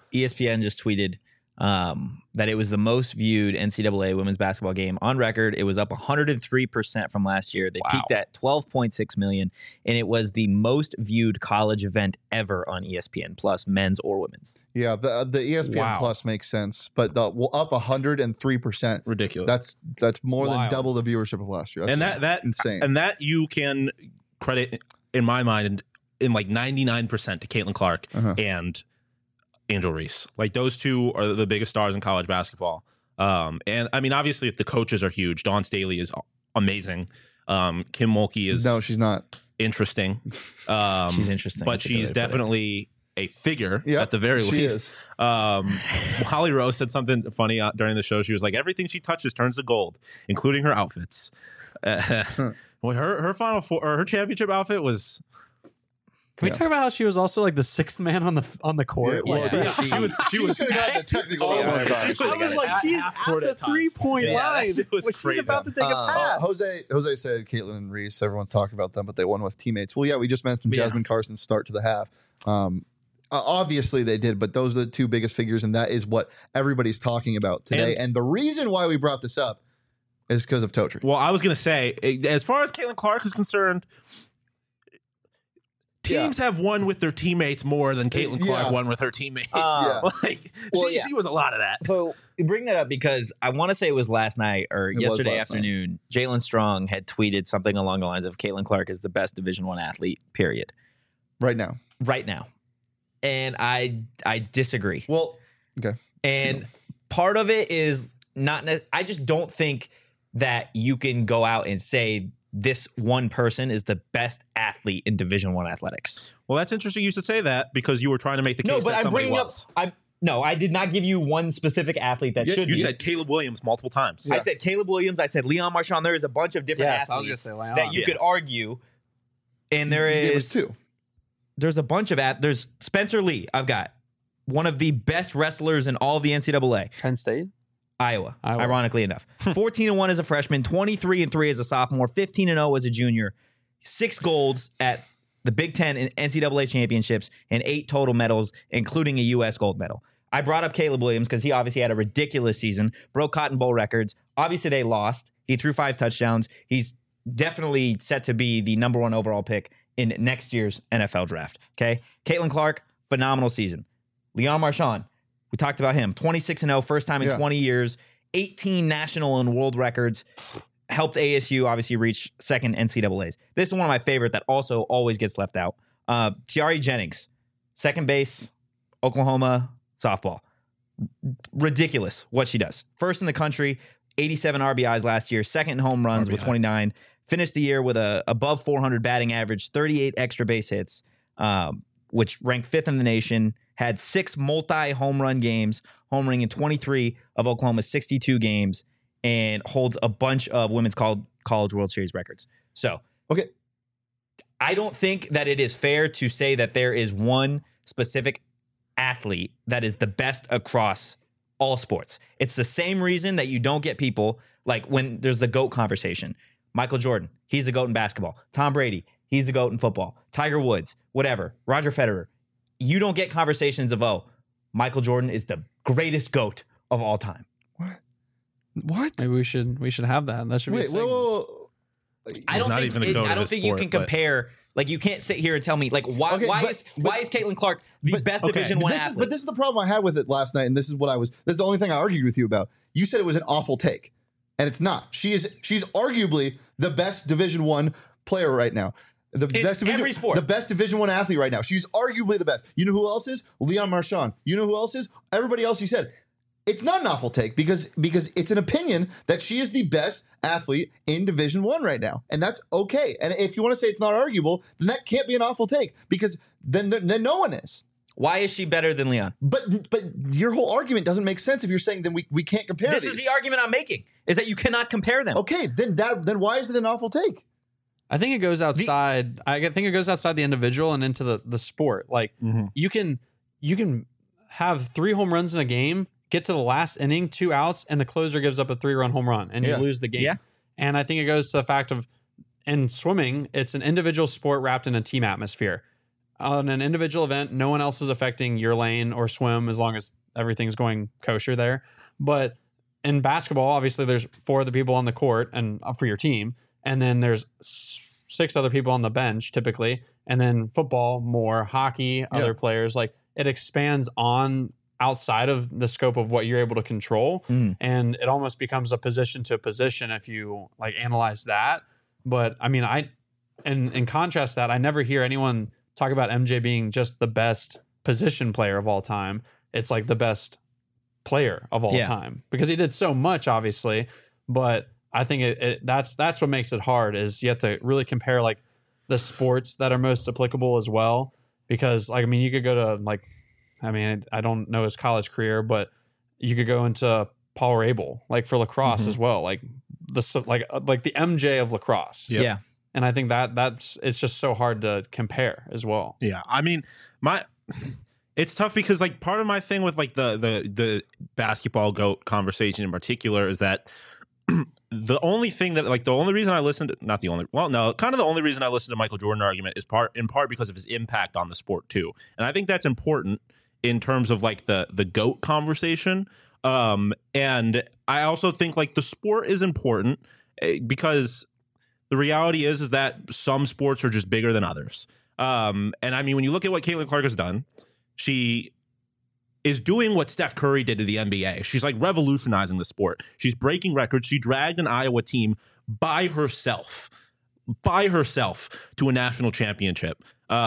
ESPN just tweeted that it was the most viewed NCAA women's basketball game on record. It was up 103% from last year. They peaked at 12.6 million, and it was the most viewed college event ever on ESPN Plus, men's or women's. Yeah, the ESPN Plus makes sense, but up 103%. Ridiculous. That's more than double the viewership of last year. That's that insane. And that you can credit, in my mind, in like 99% to Caitlin Clark and Angel Reese. Like, those two are the biggest stars in college basketball. And I mean, obviously, if the coaches are huge, Dawn Staley is amazing. Kim Mulkey is she's not interesting. She's interesting, but she's definitely a figure at the very least. Holly Rose said something funny during the show. She was like, everything she touches turns to gold, including her outfits. Well, her final four, or her championship outfit was. Can we talk about how she was also like the sixth man on the court? She was the technical. I was like, she's at the 3-point line. It was crazy. She's about to take a pass. Jose said Caitlin and Reese. Everyone's talking about them, but they won with teammates. Well, yeah, we just mentioned Jasmine Carson's start to the half. Obviously they did, but those are the two biggest figures, and that is what everybody's talking about today. And the reason why we brought this up is because of Totri. Well, I was going to say, as far as Caitlin Clark is concerned, teams have won with their teammates more than Caitlin Clark won with her teammates. She was a lot of that. So you bring that up because I want to say it was last night or yesterday afternoon. Jalen Strong had tweeted something along the lines of Caitlin Clark is the best Division I athlete, period. Right now. And I disagree. Well, okay. And part of it is I just don't think that you can go out and say this one person is the best athlete in Division I athletics. Well, that's interesting you should say that because you were trying to make the case that somebody was. No, I did not give you one specific athlete that should be. You said Caleb Williams multiple times. I said Caleb Williams. I said Leon Marchand. There is a bunch of different athletes that you could argue. And there is two. There's a bunch of there's Spencer Lee. I've got one of the best wrestlers in all of the NCAA. Penn State? Iowa. Ironically enough. 14-1 as a freshman, 23-3 as a sophomore, 15-0 as a junior, 6 golds at the Big Ten and NCAA championships, and 8 total medals, including a U.S. gold medal. I brought up Caleb Williams because he obviously had a ridiculous season, broke Cotton Bowl records. Obviously, they lost. He threw 5 touchdowns. He's definitely set to be the number 1 overall pick in next year's NFL draft. Okay? Caitlin Clark, phenomenal season. Leon Marchand, we talked about him. 26-0, first time in 20 years, 18 national and world records. Helped ASU obviously reach second NCAAs. This is one of my favorite that also always gets left out. Tiari Jennings, second base, Oklahoma softball. Ridiculous what she does. First in the country, 87 RBIs last year, second in home runs with 29. Finished the year with a above 400 batting average, 38 extra base hits, which ranked 5th in the nation. Had 6 multi-home run games, homering in 23 of Oklahoma's 62 games, and holds a bunch of women's college World Series records. So, okay, I don't think that it is fair to say that there is one specific athlete that is the best across all sports. It's the same reason that you don't get people like when there's the GOAT conversation. Michael Jordan, he's the GOAT in basketball. Tom Brady, he's the GOAT in football. Tiger Woods, whatever. Roger Federer. You don't get conversations of, Michael Jordan is the greatest GOAT of all time. What? Maybe we should have that. That should be. Whoa. I don't think you can compare. Like, you can't sit here and tell me like why is Caitlin Clark the best Division I athlete? But this is the problem I had with it last night, and this is the only thing I argued with you about. You said it was an awful take, and it's not. She's arguably the best Division I player right now. Every sport. The best Division I athlete right now. She's arguably the best. You know who else is? Leon Marchand. You know who else is? Everybody else you said. It's not an awful take because it's an opinion that she is the best athlete in Division I right now. And that's okay. And if you want to say it's not arguable, then that can't be an awful take because then no one is. Why is she better than Leon? But your whole argument doesn't make sense if you're saying then we can't compare these. This is the argument I'm making, is that you cannot compare them. Okay, then why is it an awful take? I think it goes outside. I think it goes outside the individual and into the sport. Like you can have 3 home runs in a game, get to the last inning, 2 outs, and the closer gives up a 3-run home run, and you lose the game. Yeah. And I think it goes to the fact of in swimming, it's an individual sport wrapped in a team atmosphere. on an individual event, no one else is affecting your lane or swim as long as everything's going kosher there. But in basketball, obviously there's 4 other people on the court and for your team, and then there's 6 other people on the bench typically, and then football more, hockey, other players. Like it expands on outside of the scope of what you're able to control, and it almost becomes a position to position if you like analyze that. But I mean, in contrast to that, I never hear anyone talk about MJ being just the best position player of all time. It's like the best player of all time because he did so much, obviously. But I think that's what makes it hard is you have to really compare like the sports that are most applicable as well. Because like, I mean, you could go to like, I mean, I don't know his college career, but you could go into Paul Rabel, like for lacrosse as well, like the MJ of lacrosse. Yep. Yeah. And I think that's it's just so hard to compare as well. Yeah, I mean, it's tough because like part of my thing with like the basketball GOAT conversation in particular is that the only reason I listened to, kind of the only reason I listened to Michael Jordan argument is in part because of his impact on the sport too, and I think that's important in terms of like the GOAT conversation. And I also think like the sport is important because the reality is that some sports are just bigger than others. And I mean, when you look at what Caitlin Clark has done, she is doing what Steph Curry did to the NBA. She's like revolutionizing the sport. She's breaking records. She dragged an Iowa team by herself to a national championship.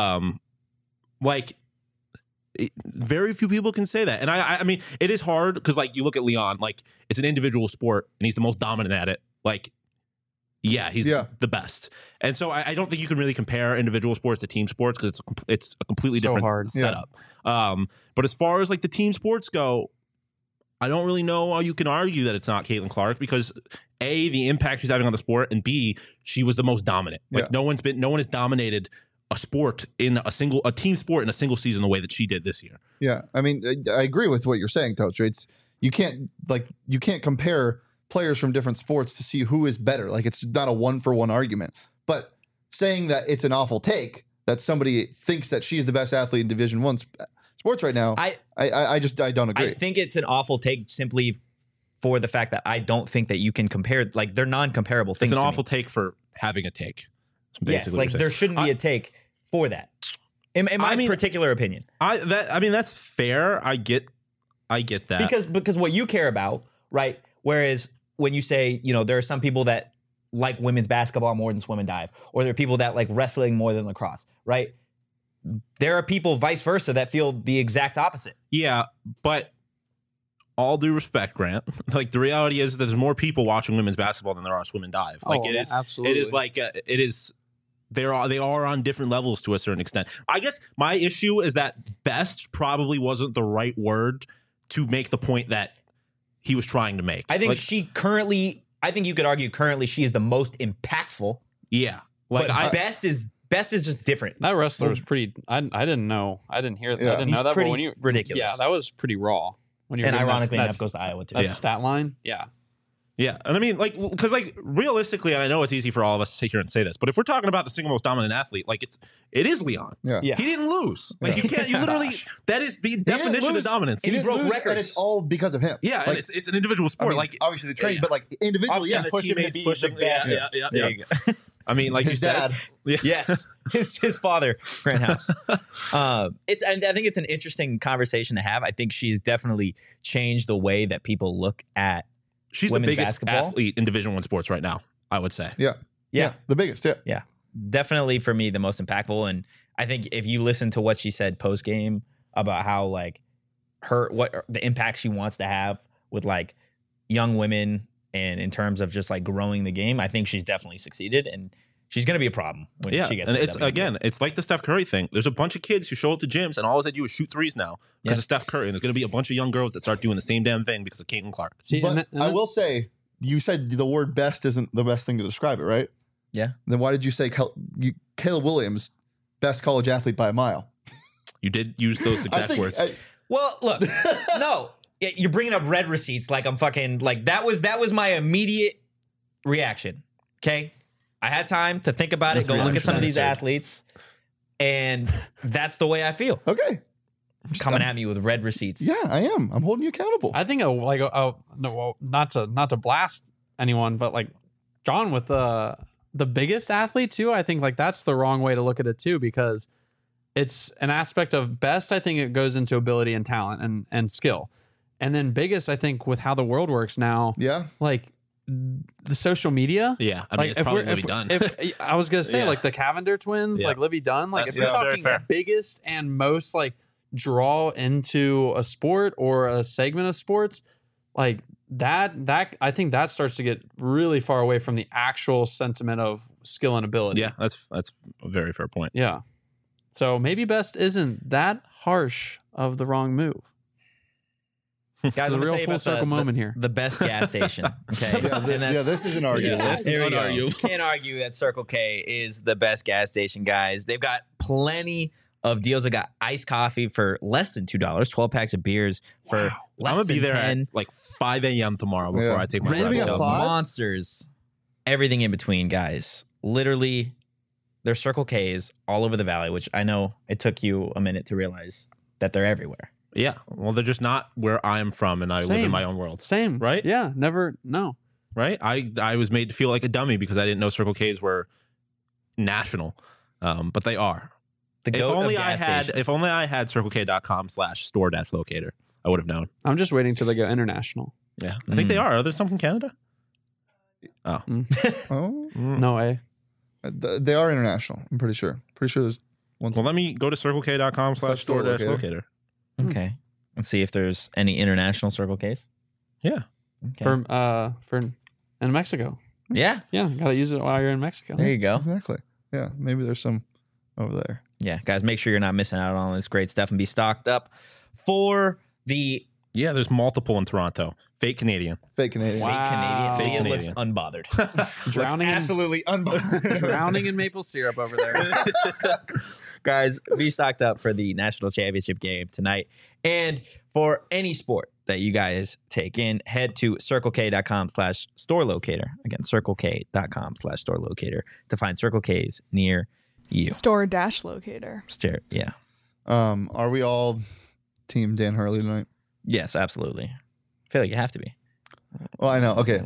Very few people can say that. And I mean, it is hard because like you look at Leon, like it's an individual sport and he's the most dominant at it. Like, yeah, he's the best. And so I don't think you can really compare individual sports to team sports because it's a completely different setup. But as far as like the team sports go, I don't really know how you can argue that it's not Caitlin Clark because A, the impact she's having on the sport, and B, she was the most dominant. Like no one has dominated a sport in a team sport in a single season the way that she did this year. Yeah, I mean, I agree with what you're saying, Toaster. You can't compare players from different sports to see who is better. Like it's not a 1-for-1 argument. But saying that it's an awful take that somebody thinks that she's the best athlete in Division I sports right now, I don't agree. I think it's an awful take simply for the fact that I don't think that you can compare. Like they're non-comparable things. It's an awful take for having a take. Yes, like there shouldn't be a take for that. In my particular opinion, that's fair. I get that because what you care about, right? Whereas when you say, you know, there are some people that like women's basketball more than swim and dive, or there are people that like wrestling more than lacrosse, right? There are people vice versa that feel the exact opposite. Yeah, but all due respect, Grant, like the reality is there's more people watching women's basketball than there are swim and dive. Like absolutely. It is like it is. They are on different levels to a certain extent. I guess my issue is that best probably wasn't the right word to make the point that he was trying to make. I think you could argue currently she is the most impactful. Yeah. Like best is just different. That wrestler was pretty, I didn't know. I didn't hear that. Yeah. I didn't know that. Pretty but when you, ridiculous. Yeah, that was pretty raw. When you And ironically enough goes to Iowa too. That stat line. Yeah. Yeah. And I mean, like, because like realistically, and I know it's easy for all of us to sit here and say this, but if we're talking about the single most dominant athlete, like it is Leon. Yeah. Yeah. He didn't lose. Like you literally, that is the definition of dominance. He broke records, and it's all because of him. Yeah, like, and it's an individual sport. I mean, like obviously the training, but like individually, the teammates pushing. Yeah. There you go. I mean, like his you dad. said, Yes, his father, Grant House. And I think it's an interesting conversation to have. I think she's definitely changed the way that people look at. She's the biggest athlete in Division I sports right now, I would say. Yeah, the biggest. Yeah, definitely for me the most impactful. And I think if you listen to what she said post game about how like what the impact she wants to have with like young women and in terms of just like growing the game, I think she's definitely succeeded, and she's going to be a problem when she gets. And to it's the WNBA. again, it's like the Steph Curry thing. There's a bunch of kids who show up to gyms and all they do is shoot threes now because of Steph Curry, and there's going to be a bunch of young girls that start doing the same damn thing because of Caitlin Clark. See, But I will say, you said the word "best" isn't the best thing to describe it, right? Yeah. Then why did you say Caleb Williams, best college athlete by a mile? You did use those exact words. Well, look, no, you're bringing up red receipts like I'm fucking like that was my immediate reaction. Okay, I had time to think about it, go look at some of these athletes. And that's the way I feel. Okay. Coming at me with red receipts. Yeah, I am. I'm holding you accountable. I think no, well, not to blast anyone, but like John with the biggest athlete too. I think like that's the wrong way to look at it too, because it's an aspect of best. I think it goes into ability and talent and skill, and then biggest. I think with how the world works now, Yeah. like the social media. Yeah, I mean, it's probably Livy Dunn. If I was gonna say Yeah. like the Cavender twins, Yeah. like Livy Dunn, like That's if you're very talking fair. biggest and most like draw into a sport or a segment of sports, like that I think that starts to get really far away from the actual sentiment of skill and ability. Yeah, that's a very fair point. Yeah. So maybe best isn't that harsh of the wrong move. Guys, It's a I'm gonna real tell you full about circle moment here. The best gas station. Okay. Yeah, And that's- this is an argument. Yeah, This is here we go. unarguable. Can't argue that Circle K is the best gas station, guys. They've got plenty of deals. They got iced coffee for less than $2, 12 packs of beers for less I'm gonna be than there 10. at like 5 a.m. tomorrow before Yeah. I take my Really? drive We got to- five? Monsters, everything in between, guys. Literally, there's Circle K's all over the valley, which I know it took you a minute to realize that they're everywhere. Yeah, well, they're just not where I'm from, and I live Same. in my own world. Same. Right? Yeah. Never. No. Right? I was made to feel like a dummy because I didn't know Circle K's were national, but they are. The If goat only of I gas had, stations. if only I had CircleK.com/store-locator, I would have known. I'm just waiting till they go international. Yeah, I think they are. Are there some in Canada? Oh, No way. They are international. I'm pretty sure. Pretty sure there's one. Well, let me go to CircleK.com/store-locator. Okay. Let's see if there's any international Circle K's. Yeah. Okay. For in Mexico. Yeah. Yeah, gotta use it while you're in Mexico. There you go. Exactly. Yeah, maybe there's some over there. Yeah, guys, make sure you're not missing out on all this great stuff and be stocked up for the Yeah, there's multiple in Toronto. Fake Canadian. Fake Canadian. Wow. fake Canadian. Fake Leah looks Canadian. unbothered. Drowning in- absolutely unbothered. Drowning in maple syrup over there. Guys, be stocked up for the national championship game tonight. And for any sport that you guys take in, head to CircleK.com/store locator. Again, CircleK.com/store locator to find Circle K's near you. Store dash locator. Yeah. Are we all team Dan Hurley tonight? Yes, absolutely. I feel like you have to be. Well, I know. Okay.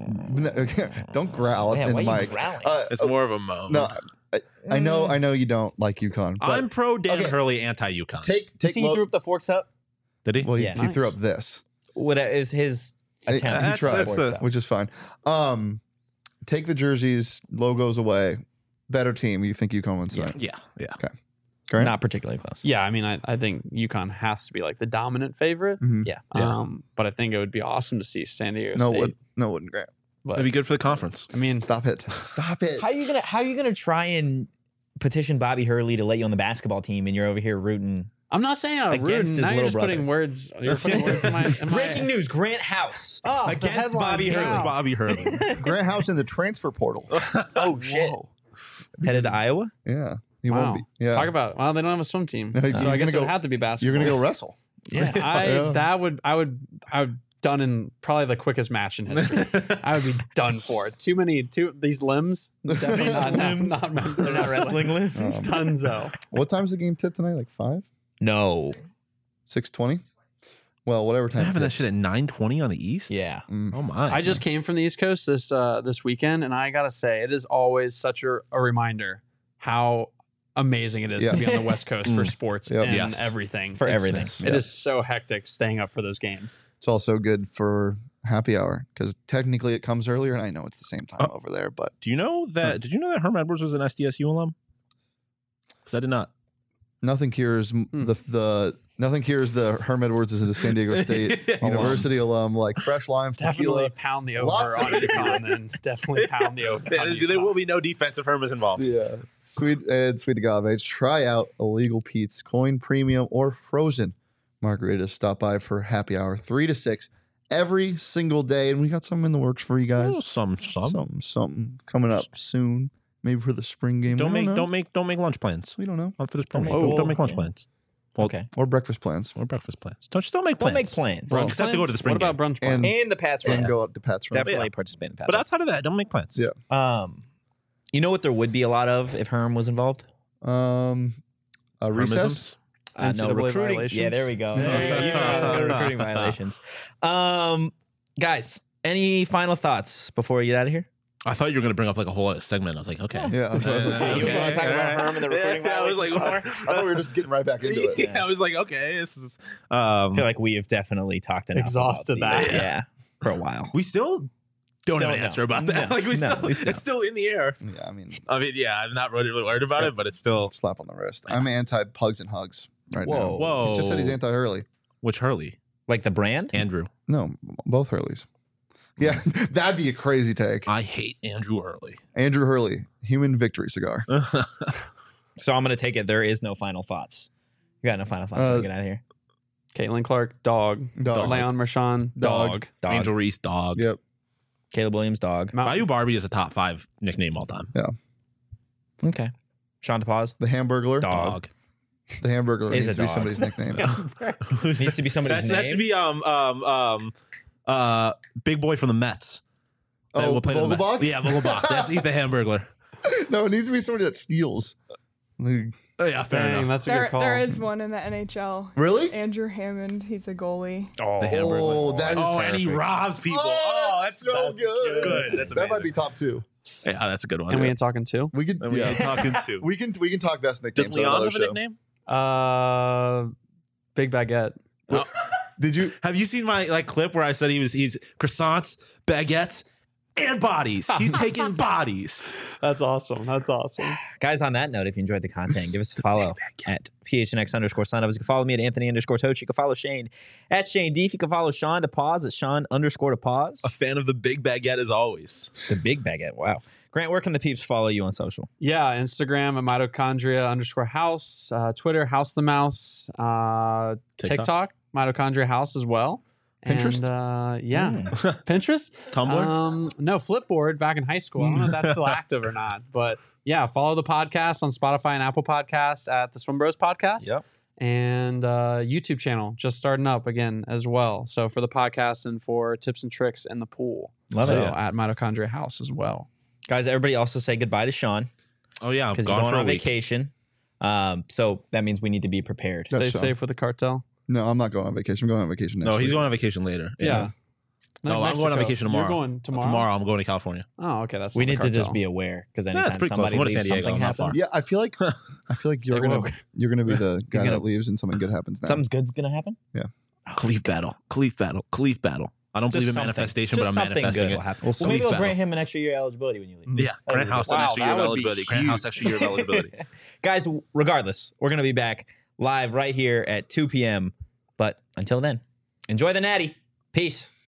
Don't growl Yeah, in why the are you mic. growling? It's more of a moan. No, I know you don't like UConn. But I'm pro Dan okay. Hurley, anti UConn. take See, he Lo- threw up the forks up. Did he? Well, he, Yeah. he threw Nice. up this, What is his attempt? He tried. That's the- which is fine. Take the jerseys, logos away. Better team. You think UConn wins tonight? Yeah, yeah. Grant? Not particularly close. Yeah, I mean, I think UConn has to be like the dominant favorite. Mhm. Yeah. Yeah. But I think it would be awesome to see San Diego No, State. it wouldn't, Grant. But That'd be good for the conference. I mean, Stop it. Stop it. How are you gonna try and petition Bobby Hurley to let you on the basketball team, and you're over here rooting? I'm not saying I'm Against rude. his Now you're little just putting brother. words. You're putting words in my. Breaking news: Grant House against Bobby yeah. Hurley. Bobby Hurley. Grant House in the transfer portal. Oh shit! Whoa. Headed to Iowa. Yeah. He Wow. won't be. Yeah. Talk about. Well, they don't have a swim team. No, he's so I gonna guess it go- would have to be basketball. You're going to go wrestle. Yeah. Yeah. I would done in probably the quickest match in history. I would be done for it. These limbs. Definitely not, Limbs. not meant for They're not wrestling limbs. Dunzo. What time's the game tip tonight? Like 5? No. 6:20? Well, whatever They're time. having that tips. shit at 9:20 on the East. Yeah. Mm. Oh my! I just came from the East Coast this weekend, and I gotta say, it is always such a reminder how amazing it is to be on the West Coast for sports Yep. and Yes. everything. For everything. It is so hectic staying up for those games. It's also good for happy hour because technically it comes earlier, and I know it's the same time over there, but Do you know that? Did you know that Herm Edwards was an SDSU alum? Because I did not. nothing cures nothing cures the Herm Edwards is a San Diego State University alum like fresh lime Definitely tequila. pound the over Lots of- on UConn, then definitely pound the over. on There will UConn. be no defensive Hermas involved. Yeah, sweet agave. Try out Illegal Pete's Coin Premium or Frozen margaritas. Stop by for happy hour 3 to 6 every single day, and we got some in the works for you guys. Oh, some. Something coming up soon, maybe for the spring game. Don't We know. make lunch plans. We don't know. On for this Don't program. make- Don't make lunch plans. Well, Okay. Or breakfast plans, Or breakfast plans. Don't make plans. Don't make plans. Well, Except to go to the spring What about game. brunch plans? And the Pats and run. go up to Pat's Run. Definitely participate in the Pats But run. outside of that, don't make plans. Yeah. You know what there would be a lot of if Herm was involved? Recess. No, NCAA recruiting. violations? Yeah, there we go. You know I was going to recruiting violations. Guys, any final thoughts before we get out of here? I thought you were going to bring up like a whole other segment. I was like, okay. Yeah. You wanna talk about Herm and the recruiting I was like, violations I thought we were just getting right back into it. yeah, I was like, okay, this is. I feel like we have definitely talked enough Exhausted about these. that. Yeah, for a while. we still don't have an know. answer about that. No, Like we no, still, we still- it's still in the air. Yeah, I mean, Yeah, I'm not really worried about it, but it's still. slap on the wrist. I'm anti-pugs and hugs right Whoa. now. Whoa. He's just said he's anti-Hurley. Which Hurley? Like the brand? Andrew. No, both Hurleys. Yeah, that'd be a crazy take. I hate Andrew Hurley. Andrew Hurley, human victory cigar. So I'm going to take it. There is no final thoughts. You got no final thoughts. So get out of here. Caitlin Clark, dog. Dog. Leon Mershon, Dog. Dog. Angel Reese, dog. Yep. Caleb Williams, dog. Bayou Barbie is a top 5 nickname all time. Okay. Sean DePaz, The Hamburglar. dog. The Hamburglar Is needs a to be dog. somebody's nickname. Needs to be somebody's That name. should be big boy from the Mets. That Oh, will play for the Mets. Vogelbach? Yeah, Vogelbach. He's the Hamburglar. No, it needs to be somebody that steals. Like, Oh, yeah, fair Dang, enough. that's a good call. There is one in the NHL. really? Andrew Hammond. He's a goalie. The Oh, Hamburglar. that is and he perfect. robs people. Oh, that's so good. Good. That's That amazing. might be top 2. Yeah, that's a good one. And we ain't talking too. We could. And we Yeah. ain't talking to. We can talk best nicknames Does on Leon another have a show. nickname? Big Baguette. Did you? Have you seen my clip where I said he's croissants, baguettes, and bodies? He's taking bodies. That's awesome. That's awesome. Guys, on that note, if you enjoyed the content, give us a follow at PHNX_signups. You can follow me at Anthony_Toach. You can follow Shane at Shane Deef. You can follow Sean DePaz at Sean_DePaz. A fan of the big baguette as always. The big baguette. Wow. Grant, where can the peeps follow you on social? Yeah, Instagram at mitochondria_house, Twitter, House the Mouse, TikTok, Mitochondria House as well. Pinterest? And, yeah. Pinterest? Tumblr? No, Flipboard back in high school. I don't know if that's still active or not. But yeah, follow the podcast on Spotify and Apple Podcasts at the Swim Bros Podcast. Yep. And YouTube channel just starting up again as well. So for the podcast and for tips and tricks in the pool. Love so it. at Mitochondria House as well. Guys, everybody also say goodbye to Sean Oh yeah, I'm because he's gone going for a on week. vacation. So that means we need to be prepared. That's Stay Sean. safe with the cartel. No, I'm not going on vacation. I'm going on vacation next No, he's week. going on vacation later. Yeah. No, I'm going on vacation tomorrow. You're going tomorrow? Tomorrow I'm going to California. Oh, okay. That's We not the need to just cartel. be aware because it's anytime pretty close. somebody I'm going to leaves, San Diego. something I'm not far. happens. Yeah, I feel like you're Stay gonna woke. you're gonna be the guy gonna- that leaves and something good happens now. Something's good's gonna happen. Khalif battle. Khalif battle. Khalif battle. I don't believe in manifestation, but I'm something manifesting good it. will happen. We'll Well, see. maybe they'll Battle. grant him an extra year eligibility when you leave. Yeah, Grant House an Wow, extra year that of would be eligibility. Grant House huge. extra year of eligibility. Guys, regardless, we're gonna be back live right here at 2 p.m. But until then, enjoy the natty. Peace.